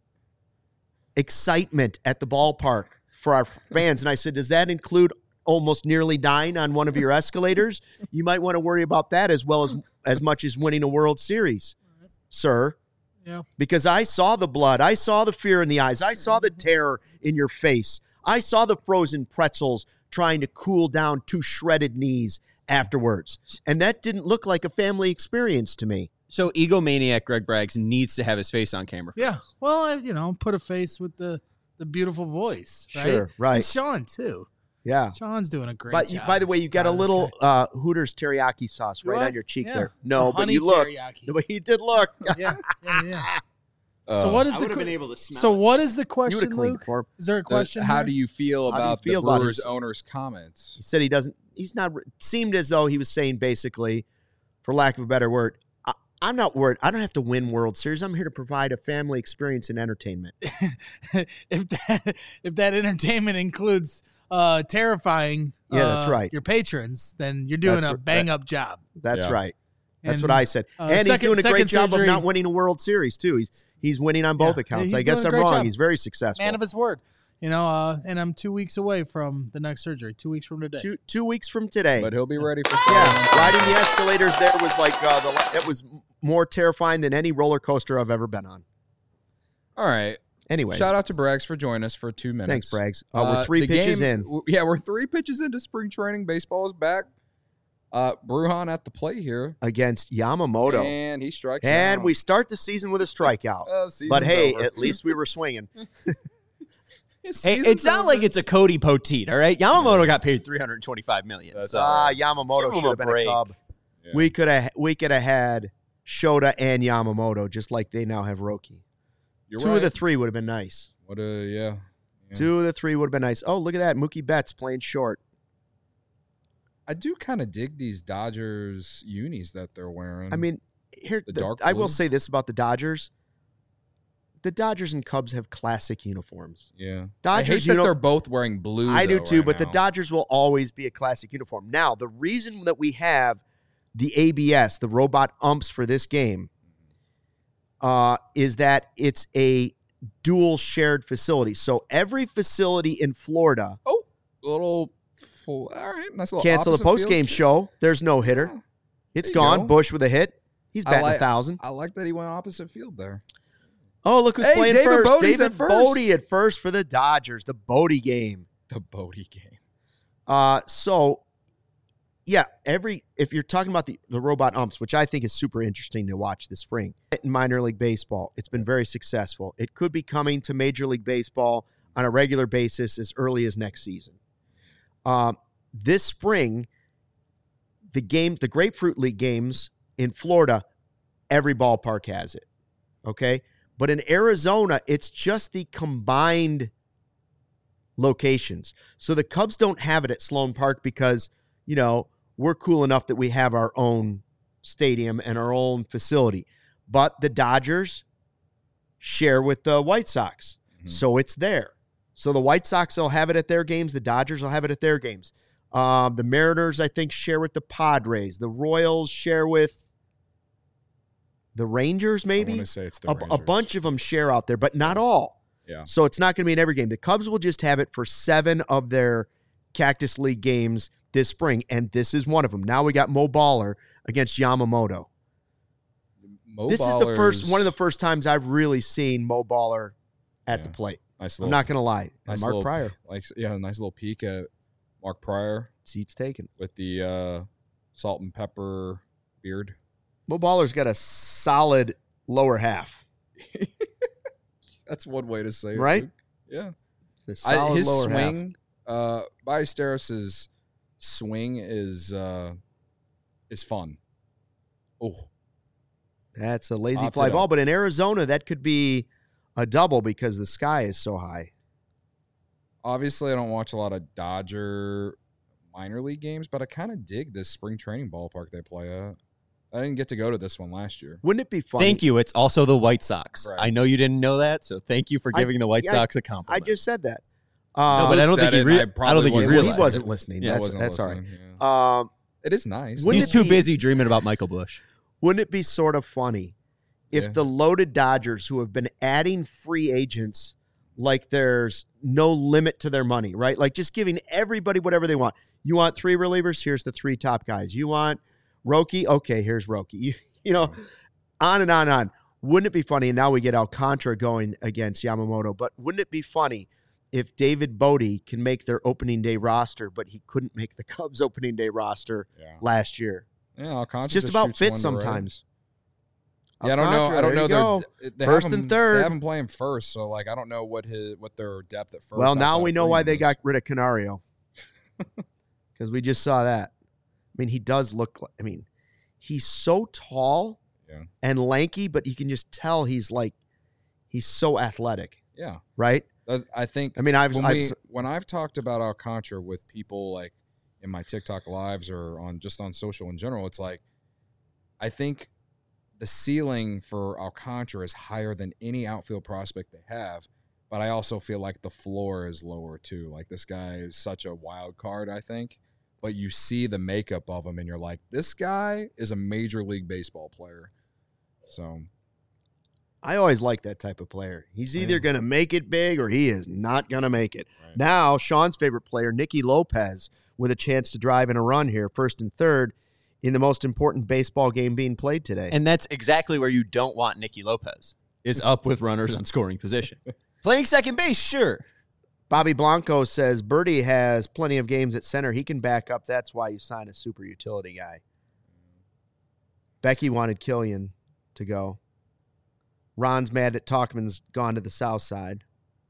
excitement at the ballpark for our fans? And I said, does that include almost nearly dying on one of your escalators? You might want to worry about that as well as as much as winning a World Series, sir. Yeah. Because I saw the blood. I saw the fear in the eyes. I saw the terror in your face. I saw the frozen pretzels trying to cool down two shredded knees afterwards. And that didn't look like a family experience to me. So egomaniac Greg Braggs needs to have his face on camera. For Yeah. this. Well, I, you know, put a face with the the beautiful voice, right? Sure, right. And Sean too. Yeah. Sean's doing a great But job. you, by the way, you got a God, this little guy. uh, Hooters teriyaki sauce Do right I? on your cheek Yeah. there. No, The but honey you looked. teriyaki. No, but you did look. yeah, yeah, yeah. Uh, So what is I the would have que- been able to smell so it. what is the You would question, have cleaned Luke? it for him. Is there a the- question? how here? do you feel How do you about feel the about Brewers his- owner's comments? He said he doesn't, he's not, it seemed as though he was saying basically, for lack of a better word, I, I'm not worried. I don't have to win World Series. I'm here to provide a family experience and entertainment. if that if that entertainment includes uh, terrifying, Yeah, that's uh, right. your patrons, then you're doing That's a r- bang up job. That's Yeah. right. That's And, what I said. uh, and he's second- doing a great second job surgery- of not winning a World Series, too. He's he's winning on both Yeah, accounts. he's I guess doing a I'm great wrong. job. He's very successful. Man of his word. You know, uh, and I'm two weeks away from the next surgery. Two weeks from today. two, two weeks from today. But he'll be ready for Yeah, riding the escalators there was like uh, the it was more terrifying than any roller coaster I've ever been on. All right. Anyways, Shout out to Braggs for joining us for two minutes. thanks, Braggs. Uh, we're three the pitches game- in w- Yeah, we're three pitches into spring training. Baseball is back. Uh, Brujan at the plate here. against Yamamoto, And he strikes and out. we start the season with a strikeout. Uh, season's but hey, over. at least we were swinging. His Hey, season's it's not over. like it's a Cody Poteet, all right? Yamamoto got paid three hundred twenty-five million dollars. That's So. Ah, Give Yamamoto him should a have been break. a Cub. Yeah. We could have we could have had Shota and Yamamoto, just like they now have Roki. You're Two right. of the three would have been nice. What a yeah. yeah. Two of the three would have been nice. Oh, look at that. Mookie Betts playing short. I do kind of dig these Dodgers unis that they're wearing. I mean, here The the- dark I will blue? say this about the Dodgers. The Dodgers and Cubs have classic uniforms. yeah. Dodgers, I hate you that know- they're both wearing blue. I do though, too, right but the now. Dodgers will always be a classic uniform. Now, the reason that we have the A B S, the robot umps for this game, uh, is that it's a dual shared facility. So every facility in Florida Oh, little. Full, all right, nice little. cancel the opposite post game field. show. There's no hitter. Yeah. It's There you gone. go. Bush with a hit. He's I batting like- a thousand. I like that he went opposite field there. Oh, look who's Hey, playing David first. Bodie's David at first. Bodie at first for the Dodgers. The Bodie game. The Bodie game. Uh, so yeah, every if you're talking about the, the robot umps, which I think is super interesting to watch this spring in minor league baseball, it's been very successful. It could be coming to Major League Baseball on a regular basis as early as next season. Um, this spring, the game, the Grapefruit League games in Florida, every ballpark has it. Okay, but in Arizona, it's just the combined locations. So the Cubs don't have it at Sloan Park because, you know, we're cool enough that we have our own stadium and our own facility. But the Dodgers share with the White Sox. Mhm. So it's there. So the White Sox will have it at their games. The Dodgers will have it at their games. Um, the Mariners, I think, share with the Padres. The Royals share with the Rangers, I maybe. want to say it's the A, a Rangers. bunch of them share out there, but not all. Yeah. So it's not going to be in every game. The Cubs will just have it for seven of their Cactus League games this spring, and this is one of them. Now we got Mo Baller against Yamamoto. Mo This is the first Baller's- one of the first times I've really seen Mo Baller at Yeah. the plate. Nice I'm little, not going to lie. And nice Mark little- Pryor, like yeah, nice little peek at Mark Pryor seats taken. with the uh, salt and pepper beard. Mo Baller's got a solid lower half, That's one way to say it, Right? Luke. Yeah. a I, solid his lower half. swing, uh, Ballesteros' swing is uh, is fun. Oh, That's a lazy Popped fly it ball, up. but in Arizona, that could be a double because the sky is so high. obviously, I don't watch a lot of Dodger minor league games, but I kind of dig this spring training ballpark they play at. I didn't get to go to this one last year. Wouldn't it be funny? Thank you. It's also the White Sox. Right. I know you didn't know that, so thank you for I- giving the White yeah, Sox a I compliment. just said that. no, Um, but I don't Luke think said he. it, Re- I I, probably don't think he wasn't well, realized. he wasn't it. listening. Yeah, I that's wasn't that's all right. listening, yeah. Um, It is nice. Wouldn't He's it too be- busy dreaming about Michael Bush. wouldn't it be sort of funny if Yeah. the loaded Dodgers, who have been adding free agents like there's no limit to their money, right? Like just giving everybody whatever they want. You want three relievers? Here's the three top guys. You want Roki? Okay, here's Roki. You, you know, on and on and on. Wouldn't it be funny? And now we get Alcantara going against Yamamoto. But wouldn't it be funny if David Bodie can make their opening day roster, but he couldn't make the Cubs opening day roster Yeah, last year? yeah Alcantara It's just about shoots fit one to right. sometimes. Yeah, I don't know. I Alcantara, don't there know. you Their, go. they First have and him- third. They have him playing first, so like I don't know what his what their depth at first. Well, now outside we of know why Freeman they is. got rid of Canario. Because we just saw that. I mean, he does look like, I mean, he's so tall Yeah. and lanky, but you can just tell he's like, he's so athletic, Yeah, right? That's- I think. I mean, I've, when, I've we, when I've talked about Alcantara with people like in my TikTok lives or on just on social in general, it's like I think the ceiling for Alcantara is higher than any outfield prospect they have, but I also feel like the floor is lower too. Like this guy is such a wild card, I think, but you see the makeup of him, and you're like, this guy is a major league baseball player. So I always like that type of player. He's either Yeah. going to make it big or he is not going to make it. Right. Now, Sean's favorite player, Nicky Lopez, with a chance to drive in a run here, first and third, in the most important baseball game being played today. And that's exactly where you don't want Nicky Lopez, is up with runners on scoring position. Playing second base, sure. Bobby Blanco says Birdie has plenty of games at center. He can back up. That's why you sign a super utility guy. Becky wanted Killian to go. Ron's mad that Talkman's gone to the south side.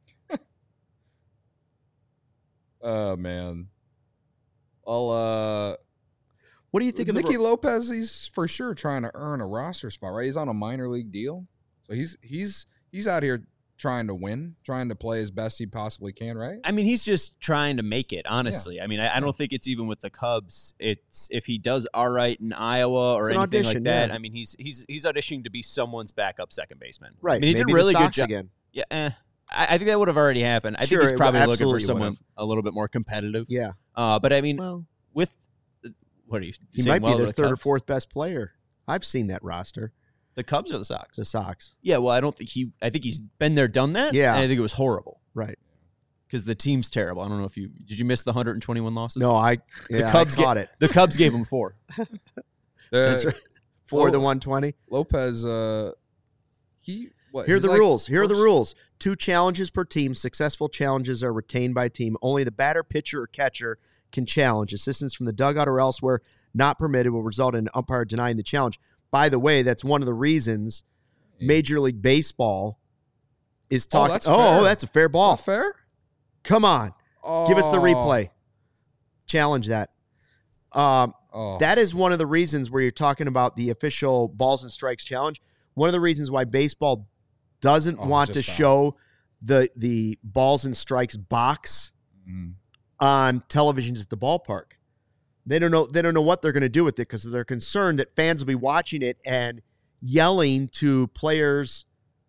Oh, man. I'll, uh, What do you think of the Nicky Lopez? He's for sure trying to earn a roster spot, right? He's on a minor league deal. So he's he's he's out here trying to win, trying to play as best he possibly can, right? I mean, he's just trying to make it, honestly. I mean, I, I don't think it's even with the Cubs. It's if he does all right in Iowa or It's an anything audition, like that. yeah. I mean, he's he's he's auditioning to be someone's backup second baseman. Right. I mean, he Maybe did a really the good Sox job. again. Yeah, eh. I, I think that would have already happened. I Sure, think he's it probably would- looking for absolutely someone would've. a little bit more competitive. Yeah. Uh, but I mean, Well, with what are you? he saying might well be to their the third or Cubs? fourth best player. I've seen that roster, The Cubs or the Sox? the Sox. Yeah, well, I don't think he. I think he's been there, done that. Yeah. and I think it was horrible Right. because the team's terrible. I don't know if you did. You miss the one hundred twenty-one losses? No, I, yeah, the Cubs I caught get, it. The Cubs gave him four. That's Uh, right. For Oh. the one twenty. Lopez, uh, he what? Here are he's the like rules. Here are the first- rules. Two challenges per team. Successful challenges are retained by team. Only the batter, pitcher, or catcher can challenge. Assistance from the dugout or elsewhere not permitted will result in an umpire denying the challenge. By the way, that's one of the reasons Major League Baseball is Oh, talking. that's Oh, fair. that's a fair ball. Not fair. Come on. Give us the Oh. replay. Challenge that. Um, Oh. That is one of the reasons where you're talking about the official balls and strikes challenge. One of the reasons why baseball doesn't Oh, want to just stop. show the the balls and strikes box Mm. on televisions at the ballpark. They don't know they don't know what they're going to do with it because they're concerned that fans will be watching it and yelling to players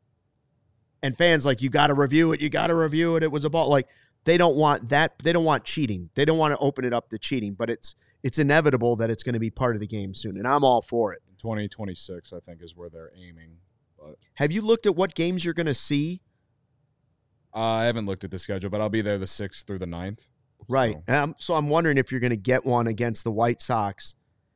and fans like, you got to review it, you got to review it. It was a ball. Like, they don't want that. They don't want cheating. They don't want to open it up to cheating, but it's it's inevitable that it's going to be part of the game soon, and I'm all for it. twenty twenty-six, I think, is where they're aiming. But Have you looked at what games you're going to see? uh, I haven't looked at the schedule, but I'll be there the sixth through the ninth. Right. Um, so I'm wondering if you're going to get one against the White Sox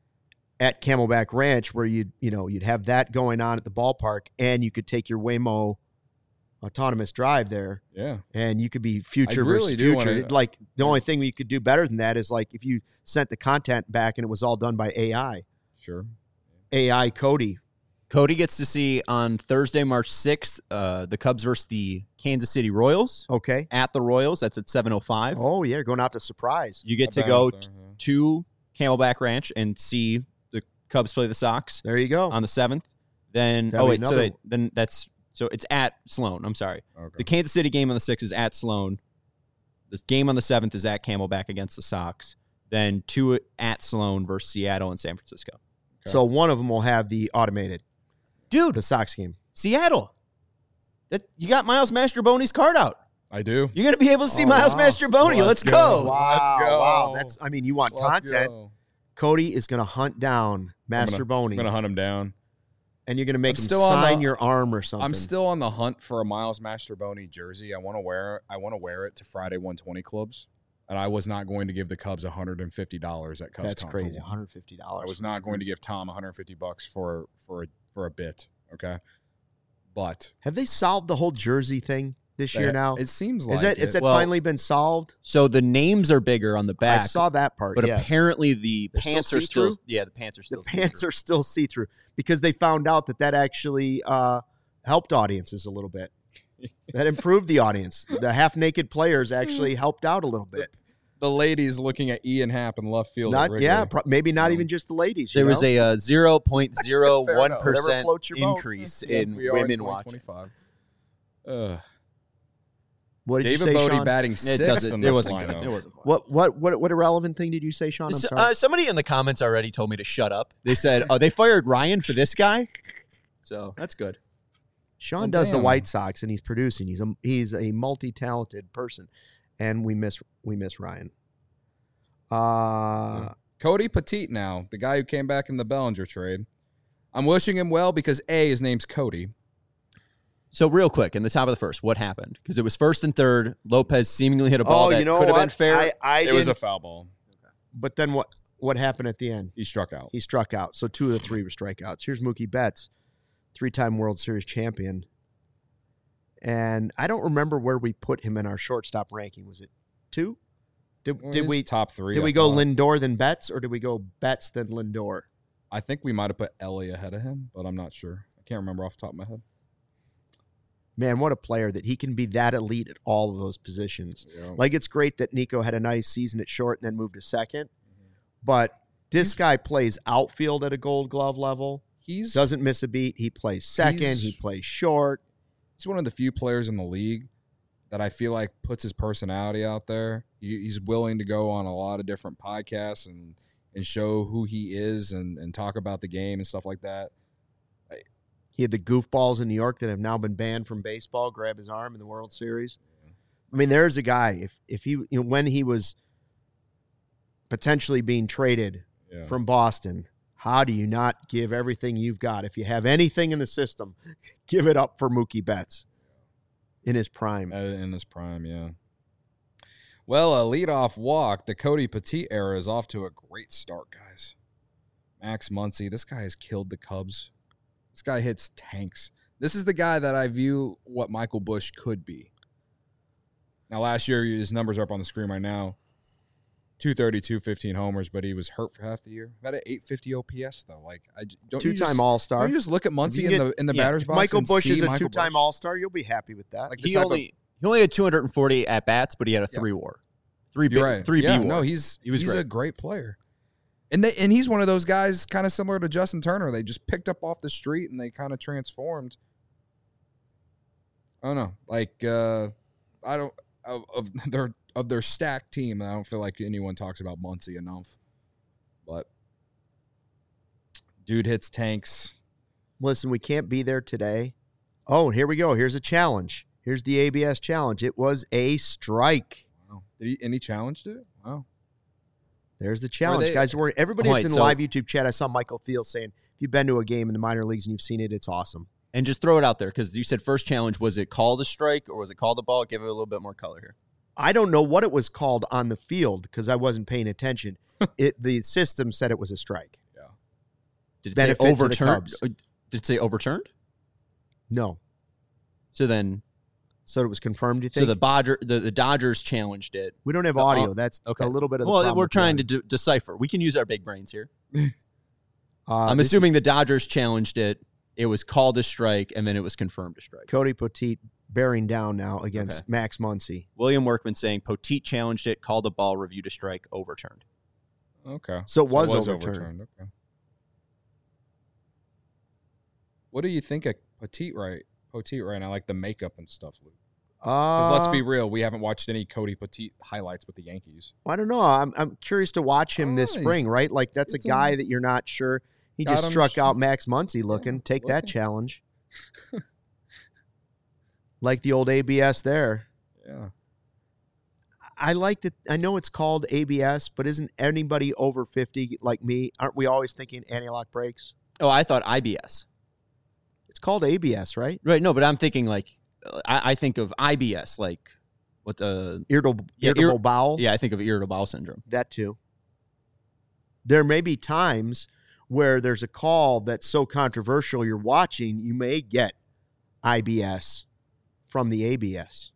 at Camelback Ranch, where you'd you know you'd have that going on at the ballpark, and you could take your Waymo autonomous drive there, Yeah. and you could be future I really versus do future. wanna- Like, the only thing you could do better than that is like if you sent the content back and it was all done by A I. Sure. A I Cody. Cody gets to see on Thursday, March sixth, uh, the Cubs versus the Kansas City Royals Okay. at the Royals. That's at seven oh five. Oh yeah, going out to surprise. You get I've to been go out there, t- yeah. to Camelback Ranch and see the Cubs play the Sox There you go. on the seventh. Then That'll oh be wait, so another- wait, then that's so it's at Sloan. I'm sorry. Okay. The Kansas City game on the sixth is at Sloan. The game on the seventh is at Camelback against the Sox. Then two at Sloan versus Seattle and San Francisco. So one of them will have the automated, Dude, the Sox game. Seattle. That you got Miles Mastroboni's card out. I do. You're gonna be able to see Oh, Miles wow. Mastroboni. Let's Let's go. go. Wow, Let's go. wow. That's I mean, you want Let's content. go. Cody is going to hunt down Master I'm Boney, gonna hunt him down. and you're going to make I'm him still on sign the- your arm or something. I'm still on the hunt for a Miles Mastroboni jersey. I want to wear. I want to wear it to Friday one twenty clubs, and I was not going to give the Cubs one hundred fifty dollars at Cubs. That's Con for crazy. one. one hundred fifty dollars. I was not going to give Tom one hundred fifty bucks for for a, for a bit. Okay, but Have they solved the whole jersey thing this they- year now? it seems like Is that it. is that Well, finally been solved? So the names are bigger on the back. I saw that part. but yes. apparently the They're still pants are still see-through? yeah, the pants are the still pants see-through. are still see through because they found out that that actually uh, helped audiences a little bit. That improved the audience. The half naked players actually helped out a little bit. the ladies looking at Ian Happ in left field. at Not Wrigley. yeah, pro- maybe not Um, even just the ladies. you There was know? a uh, zero point zero one Whatever percent floats your boat. increase Yeah, in we are in women twenty watching. twenty-five. Ugh. what did David you say, Bodie Sean? batting It sixth doesn't. in It this wasn't lineup. good. It wasn't. Fun. What what what what irrelevant thing did you say, Sean? I'm So, sorry. uh, somebody in the comments already told me to shut up. They said, "Oh, they fired Ryan for this guy." So that's good. Sean Well, does the damn. White Sox, and he's producing. He's a he's a multi-talented person, and we miss we miss Ryan. Uh, Cody Petit now, the guy who came back in the Bellinger trade. I'm wishing him well because, A, his name's Cody. So real quick, in the top of the first, what happened? Because it was first and third. Lopez seemingly hit a ball oh, that you know could have what? been fair. I, I It was a didn't- foul ball. But then what? What happened at the end? He struck out. He struck out. So two of the three were strikeouts. Here's Mookie Betts, three-time World Series champion. And I don't remember where we put him in our shortstop ranking. Was it two? Did, Well, did he's we top three? did I we go thought. Lindor then Betts, or did we go Betts then Lindor? I think we might have put Ellie ahead of him, but I'm not sure. I can't remember off the top of my head. Man, what a player that he can be that elite at all of those positions. Yeah. Like, it's great that Nico had a nice season at short and then moved to second. Mm-hmm. But this guy plays outfield at a Gold Glove level. He's Doesn't miss a beat. He plays second. He's- He plays short. he's one of the few players in the league that I feel like puts his personality out there. He, he's willing to go on a lot of different podcasts and and show who he is and, and talk about the game and stuff like that. He had the goofballs in New York that have now been banned from baseball grab his arm in the World Series. I mean, there's a guy. If if he you know, when he was potentially being traded Yeah. from Boston, how do you not give everything you've got? If you have anything in the system, give it up for Mookie Betts in his prime. Uh, in his prime, yeah. Well, a leadoff walk. The Cody Petit era is off to a great start, guys. Max Muncy, this guy has killed the Cubs. This guy hits tanks. This is the guy that I view what Michael Busch could be. Now, last year, his numbers are up on the screen right now. two thirty-two, fifteen homers, but he was hurt for half the year. Got an eight fifty O P S, though. Like, I j- don't you Two-time just, All-Star. Don't you just look at Muncy you in get- the in the yeah, batter's If box? Michael and Busch see is a Michael two-time Busch? All-Star, you'll be happy with that. Like the he type only he only had two hundred forty at bats, but he had a Yeah. three war, three You're big, right. three yeah, B war. no, he's He was he's great. a great player, and they and he's one of those guys, kind of similar to Justin Turner. They just picked up off the street and they kind of transformed. I don't know, like uh, I don't of, of their of their stacked team. I don't feel like anyone talks about Muncy enough, but dude hits tanks. Listen, we can't be there today. Oh, here we go. Here's a challenge. Here's the A B S challenge. It was a strike. Wow, did he and he challenged it? Wow. There's the challenge, they- guys. We're, everybody Oh, that's wait, in the so- live YouTube chat, I saw Michael Thiel saying, if you've been to a game in the minor leagues and you've seen it, it's awesome. And just throw it out there because you said first challenge. Was it called a strike or was it called a ball? Give it a little bit more color here. I don't know what it was called on the field because I wasn't paying attention. It the system said it was a strike. Did it Benefit say to the overturned? Cubs. Uh, Did it say overturned? No. So then, So it was confirmed, you think? so the Bodger, the, the Dodgers challenged it. we don't have the- audio. uh, That's okay. a little bit of the Well, problem we're with the trying to audio. de- decipher. We can use our big brains here. Uh, I'm this is assuming the Dodgers challenged it. It was called a strike, and then it was confirmed a strike. Cody Petit bearing down now against Okay. Max Muncy. William Workman saying Poteet challenged it, called a ball, reviewed a strike, overturned. Okay. So it was overturned. Okay. What do you think of Petite right? Petite right now, like the makeup and stuff, Luke. Because Uh, let's be real, we haven't watched any Cody Petite highlights with the Yankees. I don't know. I'm I'm curious to watch him this Oh, spring, he's- right? Like that's a it's a- guy that you're not sure. He Got just him struck sh- out Max Muncy looking. Yeah, Take that looking. challenge. Like the old A B S there. Yeah. I like that. I know it's called A B S, but isn't anybody over fifty like me? Aren't we always thinking anti-lock brakes? Oh, I thought I B S. It's called A B S, right? Right, no, but I'm thinking like, uh, I, I think of I B S, like what the, Irritable, Yeah, irritable ir- bowel. yeah, I think of irritable bowel syndrome. That too. There may be times where there's a call that's so controversial you're watching, you may get I B S from the A B S.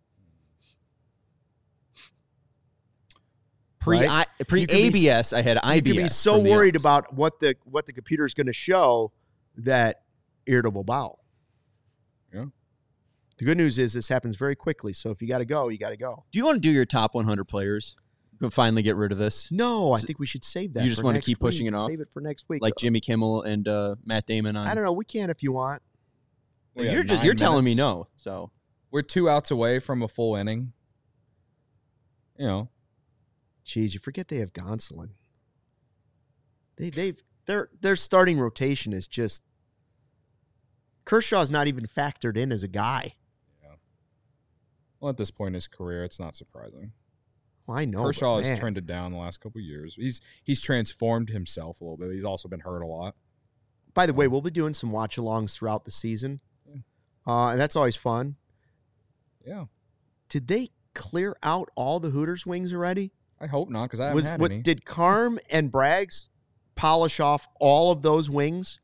Pre Right? I, pre You could be A B S, I had I B S. You can be so from the worried ups. about what the what the computer is going to show that irritable bowel. Yeah. The good news is this happens very quickly. So if you got to go, you got to go. Do you want to do your top one hundred players? You can finally get rid of this, No, I So- think we should save that. You just for wanna next keep pushing week. it off? Save it for next week. like Jimmy Kimmel and uh, Matt Damon on. I don't know. We can if you want. We got You're just nine you're telling me minutes. no. So We're two outs away from a full inning. You know, Jeez, you forget they have Gonsolin. They they've their their starting rotation is just Kershaw's not even factored in as a guy. well, at this point in his career, it's not surprising. Well, I know. Kershaw but, has man. trended down the last couple of years. He's he's transformed himself a little bit. He's also been hurt a lot. By the way, we'll be doing some watch-alongs throughout the season, uh, and that's always fun. Yeah. Did they clear out all the Hooters wings already? I hope not, because I haven't Was had what, any. did Carm and Braggs polish off all of those wings?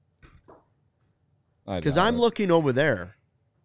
I Because doubt I'm it. looking over there,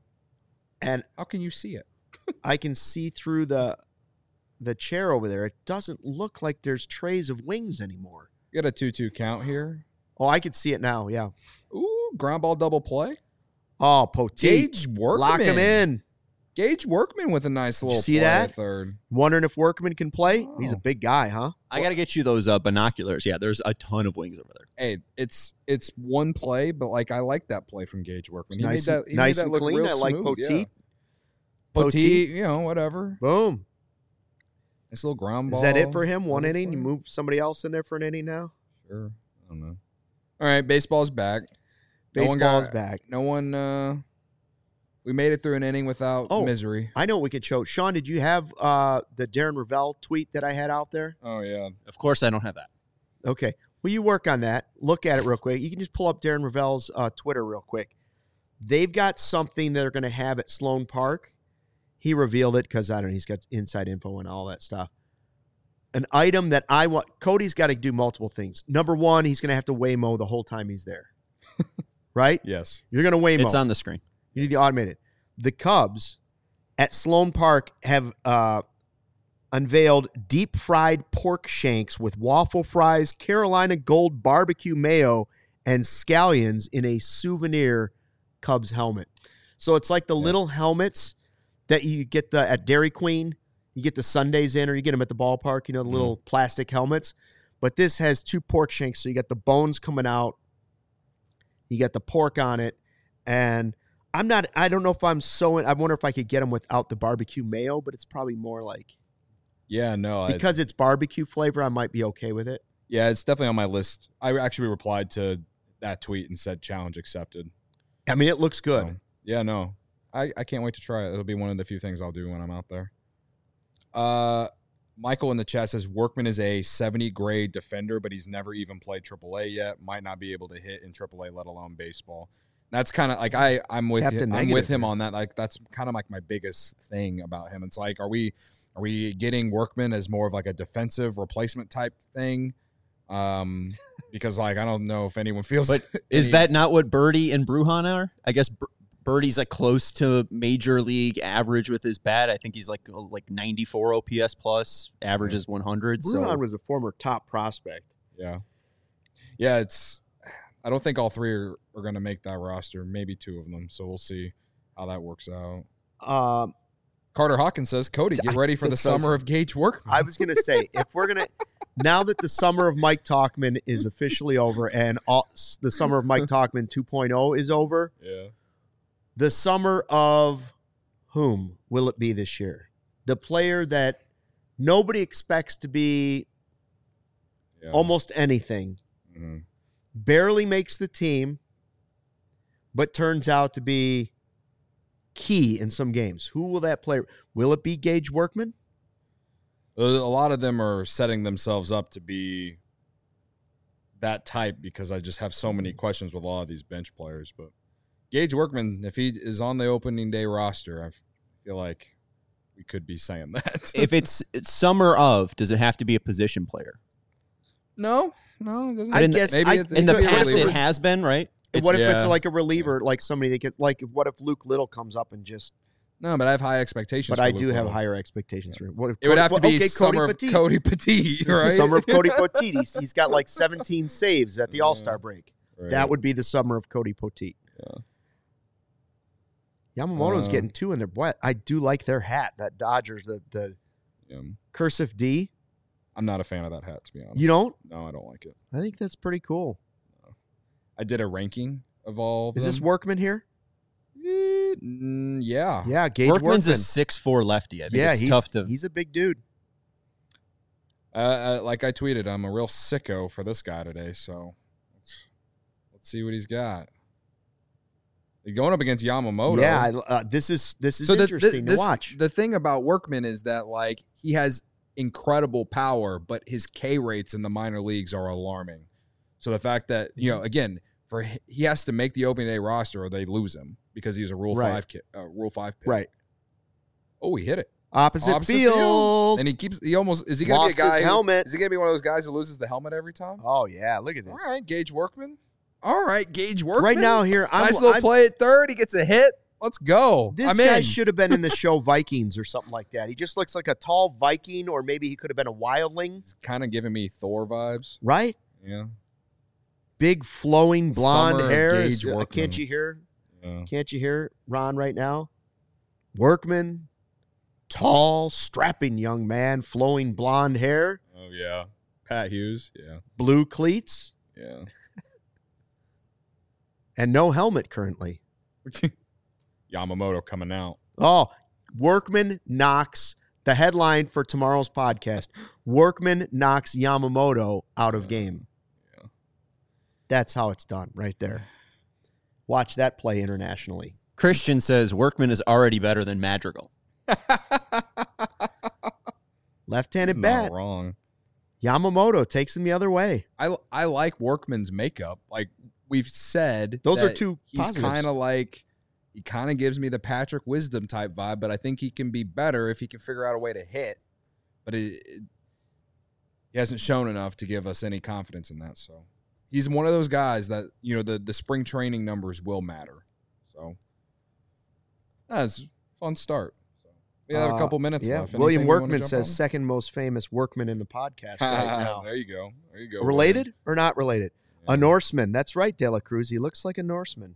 and How can you see it? I can see through the the chair over there. It doesn't look like there's trays of wings anymore. You got a two two count here. Oh, I can see it now. Yeah. Ooh, ground ball double play. Oh, Poteet. Gage Workman. Lock him in. Gage Workman with a nice little see play that? at third. Wondering if Workman can play? He's a Oh. big guy, huh? I got to get you those uh, binoculars. Yeah, there's a ton of wings over there. Hey, it's it's one play, but like I like that play from Gage Workman. It's He nice made and- that, he nice made that and look clean. real I like smooth, Poteet. yeah. Poteet. Poteet, you know, whatever. Boom. Nice little ground ball. Is that it for him? One double inning? You play. move somebody else in there for an inning now? Sure. I don't know. All right, baseball's back. No one Baseball's got- back. No one. Uh, we made it through an inning without Oh. misery. I know what we could show. Sean, did you have uh, the Darren Ravel tweet that I had out there? Oh yeah. Of course, I don't have that. Okay. Will you work on that? Look at it real quick. You can just pull up Darren Ravel's uh, Twitter real quick. They've got something they're going to have at Sloan Park. He revealed it because, I don't know, he's got inside info and all that stuff. An item that I want. Cody's got to do multiple things. Number one, he's going to have to Waymo the whole time he's there. Right? Yes. You're going to Waymo. It's on the screen. You need the automated. The Cubs at Sloan Park have uh, unveiled deep fried pork shanks with waffle fries, Carolina Gold barbecue mayo, and scallions in a souvenir Cubs helmet. So it's like the Yeah. little helmets that you get the at Dairy Queen. You get the Sundays in, or you get them at the ballpark. You know, the little plastic helmets. But this has two pork shanks, so you got the bones coming out. You got the pork on it, and I'm not. I don't know if I'm so. In, I wonder if I could get them without the barbecue mayo, but it's probably more like Yeah. No. I, because it's barbecue flavor. I might be okay with it. yeah. It's definitely on my list. I actually replied to that tweet and said challenge accepted. I mean, it looks good. So, yeah. No. I, I can't wait to try it. It'll be one of the few things I'll do when I'm out there. Uh, Michael in the chat says Workman is a seventy grade defender, but he's never even played triple A yet. Might not be able to hit in triple A, let alone baseball. That's kind of like I I'm with Captain him, I'm Negative with him here. on that. Like that's kind of like my biggest thing about him. It's like are we are we getting Workman as more of like a defensive replacement type thing? Um, because like I don't know if anyone feels. But is any- that not what Birdie and Bruhan are? I guess Bir- Birdie's like close to major league average with his bat. I think he's like like ninety-four O P S plus, averages one hundred. Bruhan So was a former top prospect. Yeah. Yeah, it's I don't think all three are, are going to make that roster, maybe two of them. So we'll see how that works out. Um, Carter Hawkins says, Cody, get ready for the That's what I was- summer of Gage Workman. I was gonna say if we're gonna now that the summer of Mike Talkman is officially over and all, the summer of Mike Talkman two point oh is over, yeah. the summer of whom will it be this year? The player that nobody expects to be yeah. almost anything, Mhm. barely makes the team, but turns out to be key in some games. Who will that player? Will it be Gage Workman? A lot of them are setting themselves up to be that type because I just have so many questions with a lot of these bench players. But Gage Workman, if he is on the opening day roster, I feel like we could be saying that. if it's, it's summer of, does it have to be a position player? no, no, it doesn't. I in the- guess maybe I, it- In the could be a past, reliever. it has been, right? It's- what if it's yeah. like a reliever, like somebody that gets like what if Luke Little comes up and just? No, but I have high expectations. But for I Luke do have Little. higher expectations for him. What if It would Cody- have to well, be okay, summer Cody of Petit. Cody Petit, right? Summer of Cody Petit. He's, he's got like seventeen saves at the Yeah. All Star break. Right. That would be the summer of Cody Petit. Yeah. Yamamoto's Uh, getting two in their boy. I do like their hat. That Dodgers, the the Yeah. cursive D. I'm not a fan of that hat, to be honest. You don't? No, I don't like it. I think that's pretty cool. I did a ranking of all of Is this them. Workman here? Eh, mm, yeah. Yeah, Gage Workman's Workman. a six four lefty. I think yeah, it's he's tough to. he's a big dude. Uh, uh, like I tweeted, I'm a real sicko for this guy today, so let's let's see what he's got. You're going up against Yamamoto. Yeah, I, uh, this is this is so the, interesting this, to watch. The thing about Workman is that like he has incredible power, but his K rates in the minor leagues are alarming. So the fact that, you know, again, for he has to make the opening day roster or they lose him because he's a Rule Right. five ki- uh, Rule five pick. Right. Oh, he hit it. Opposite, Opposite field. field. And he keeps he almost is he gonna Lost be a guy his who- helmet. is he gonna be one of those guys who loses the helmet every time? Oh, yeah. Look at this. All right, Gage Workman. All right, Gage Workman. Right now here, I'm, nice little I'm- play at third. He gets a hit. Let's go. This I'm guy in. should have been in the show Vikings or something like that. He just looks like a tall Viking, or maybe he could have been a wildling, It's kind of giving me Thor vibes. right? Yeah. Big flowing blonde Summer of hair. Gage Is- uh, Workman. Can't you hear? Yeah. Can't you hear Ron right now? Workman, tall, strapping young man, flowing blonde hair, Oh yeah. Pat Hughes. Yeah. blue cleats, Yeah. and no helmet currently. Yamamoto coming out. Oh, Workman knocks the headline for tomorrow's podcast. Workman knocks Yamamoto out of game. Yeah. That's how it's done right there. Watch that play internationally. Christian says Workman is already better than Madrigal. Left-handed He's bat. not wrong. Yamamoto takes him the other way. I I like Workman's makeup. Like we've said, Those are that two He's positives. kind of like he kind of gives me the Patrick Wisdom type vibe, but I think he can be better if he can figure out a way to hit. But it, it, he hasn't shown enough to give us any confidence in that. So he's one of those guys that you know the the spring training numbers will matter. So that's a fun start. So we have a Uh, couple minutes yeah. left. William Anything you wanna Workman jump says on? second most famous workman in the podcast right now. There you go. There you go. Related or not related? Yeah. A Norseman. That's right, De La Cruz. He looks like a Norseman.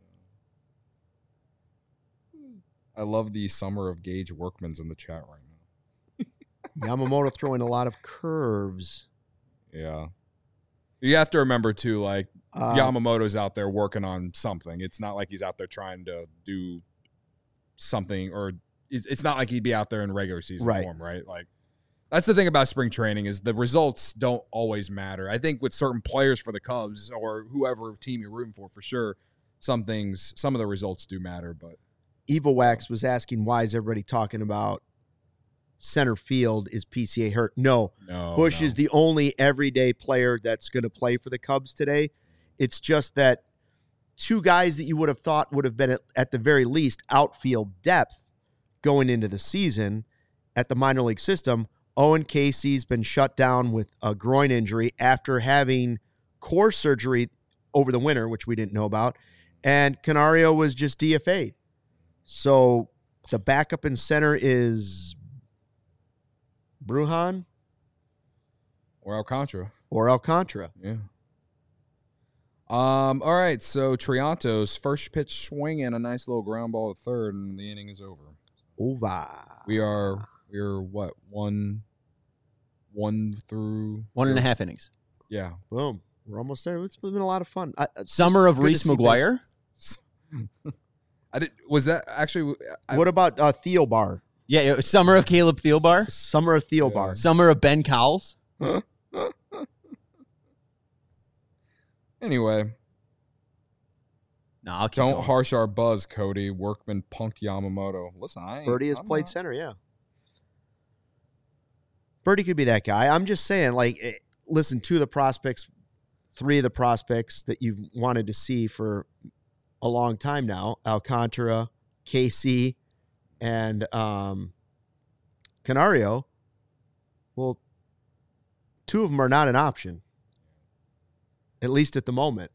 I love the summer of Gage Workman's in the chat right now. Yamamoto throwing a lot of curves. Yeah. You have to remember too, like Uh, Yamamoto's out there working on something. It's not like he's out there trying to do something, or it's it's not like he'd be out there in regular season Right. form, right? Like that's the thing about spring training is the results don't always matter. I think with certain players for the Cubs or whoever team you're rooting for, for sure, some things, some of the results do matter. But Eva Wax was asking, why is everybody talking about center field? Is P C A hurt? No. no, Bush no. is the only everyday player that's going to play for the Cubs today. It's just that two guys that you would have thought would have been at, at the very least outfield depth going into the season at the minor league system. Owen Casey's been shut down with a groin injury after having core surgery over the winter, which we didn't know about. And Canario was just D F A'd. So the backup in center is Brujan or Alcantara. or Alcantara. Yeah. Um. All right. So Trianto's first pitch swing and a nice little ground ball at third, and the inning is over. Over. We are we are what one, one through One and a half innings. Yeah. Boom. We're almost there. It's been a lot of fun. I, it's Summer just of good to Reese see McGuire. I did. Was that actually? I, base- What about uh, Thielbar? Yeah, it was summer of Caleb Thielbar. Summer of Thielbar. Summer of Ben Cowles. Anyway, No, I'll keep don't going. harsh our buzz, Cody. Workman punked Yamamoto. Listen, I ain't, Birdie has I'm played not- center, yeah. Birdie could be that guy. I'm just saying, like, eh, listen, two of the prospects, three of the prospects that you've wanted to see for a long time now, Alcantara, K C, and um, Canario, well, two of them are not an option, at least at the moment.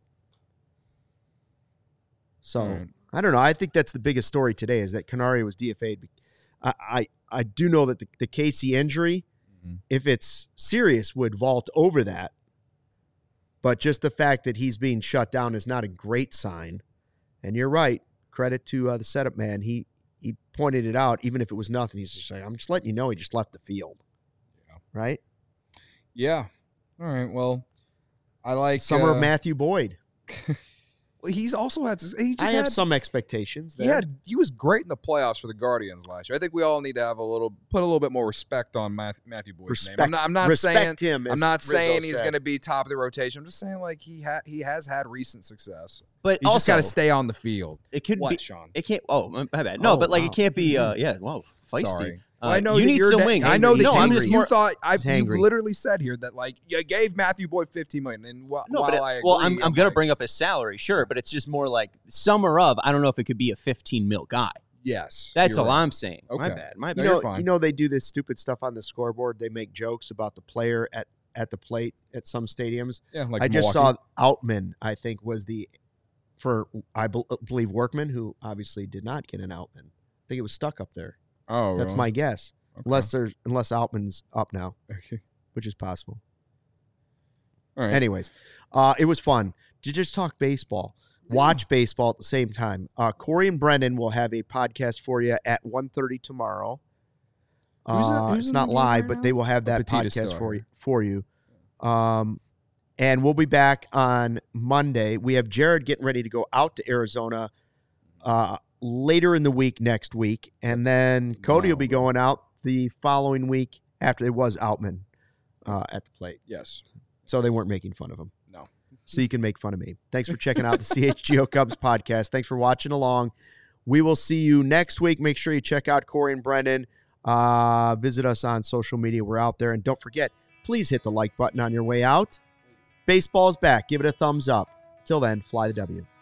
So, All right. I don't know. I think that's the biggest story today is that Canario was D F A'd. I, I, I do know that the, the K C injury, Mhm. if it's serious, would vault over that. But just the fact that he's being shut down is not a great sign. And you're right. Credit to uh, the setup man. He he pointed it out, even if it was nothing. He's just like, I'm just letting you know he just left the field. Yeah. Right? Yeah. All right. Well, I like Summer uh, of Matthew Boyd. Well, he's also had. He just I have had, some expectations He there. had. He was great in the playoffs for the Guardians last year. I think we all need to have a little, put a little bit more respect on Matthew, Matthew Boyd's Respect, name. I'm not. I'm not respect saying. him. I'm as not Rizzo saying he's said. going to be top of the rotation. I'm just saying like he ha- he has had recent success. But He's just also, got to stay on the field. it could What, be. Sean? It can't. Oh, my bad. No, Oh, but like wow. it can't be. Uh, yeah. Whoa, feisty. Sorry. Uh, I know you that need you're some na- wings. I know that no, you, I'm just you more. thought I've He's you've hangry. literally said here that like you gave Matthew Boyd fifteen million dollars, and wh- No, while but it- I agree, well, I'm, I'm gonna like, bring up his salary, sure, but it's just more like summer of. I don't know if it could be a fifteen mil guy. yes. That's you're all right. I'm saying. My Okay. bad. My No, bad. You you're know, fine. you know they do this stupid stuff on the scoreboard. They make jokes about the player at, at the plate at some stadiums. Yeah, like I just Milwaukee. saw Outman, I think, was the for I bel- believe Workman, who obviously did not get an Outman. I think it was stuck up there. Oh, That's really? my guess. Okay. Unless there's unless Outman's up now, Okay. which is possible. All right. Anyways, uh, it was fun to just talk baseball, watch baseball at the same time. Uh, Corey and Brendan will have a podcast for you at one thirty tomorrow. Who's in- Uh, who's it's in not the game live, right but now? they will have that Petita's podcast still for out you. For you. Um, and we'll be back on Monday. We have Jared getting ready to go out to Arizona uh, later in the week next week. And then Cody will be Wow. going out the following week after it was Outman uh, at the plate. Yes. So they weren't making fun of him. No. So you can make fun of me. Thanks for checking out the C H G O Cubs podcast. Thanks for watching along. We will see you next week. Make sure you check out Corey and Brendan. Uh, visit us on social media. We're out there. And don't forget, please hit the like button on your way out. Baseball's back. Give it a thumbs up. Till then, fly the W.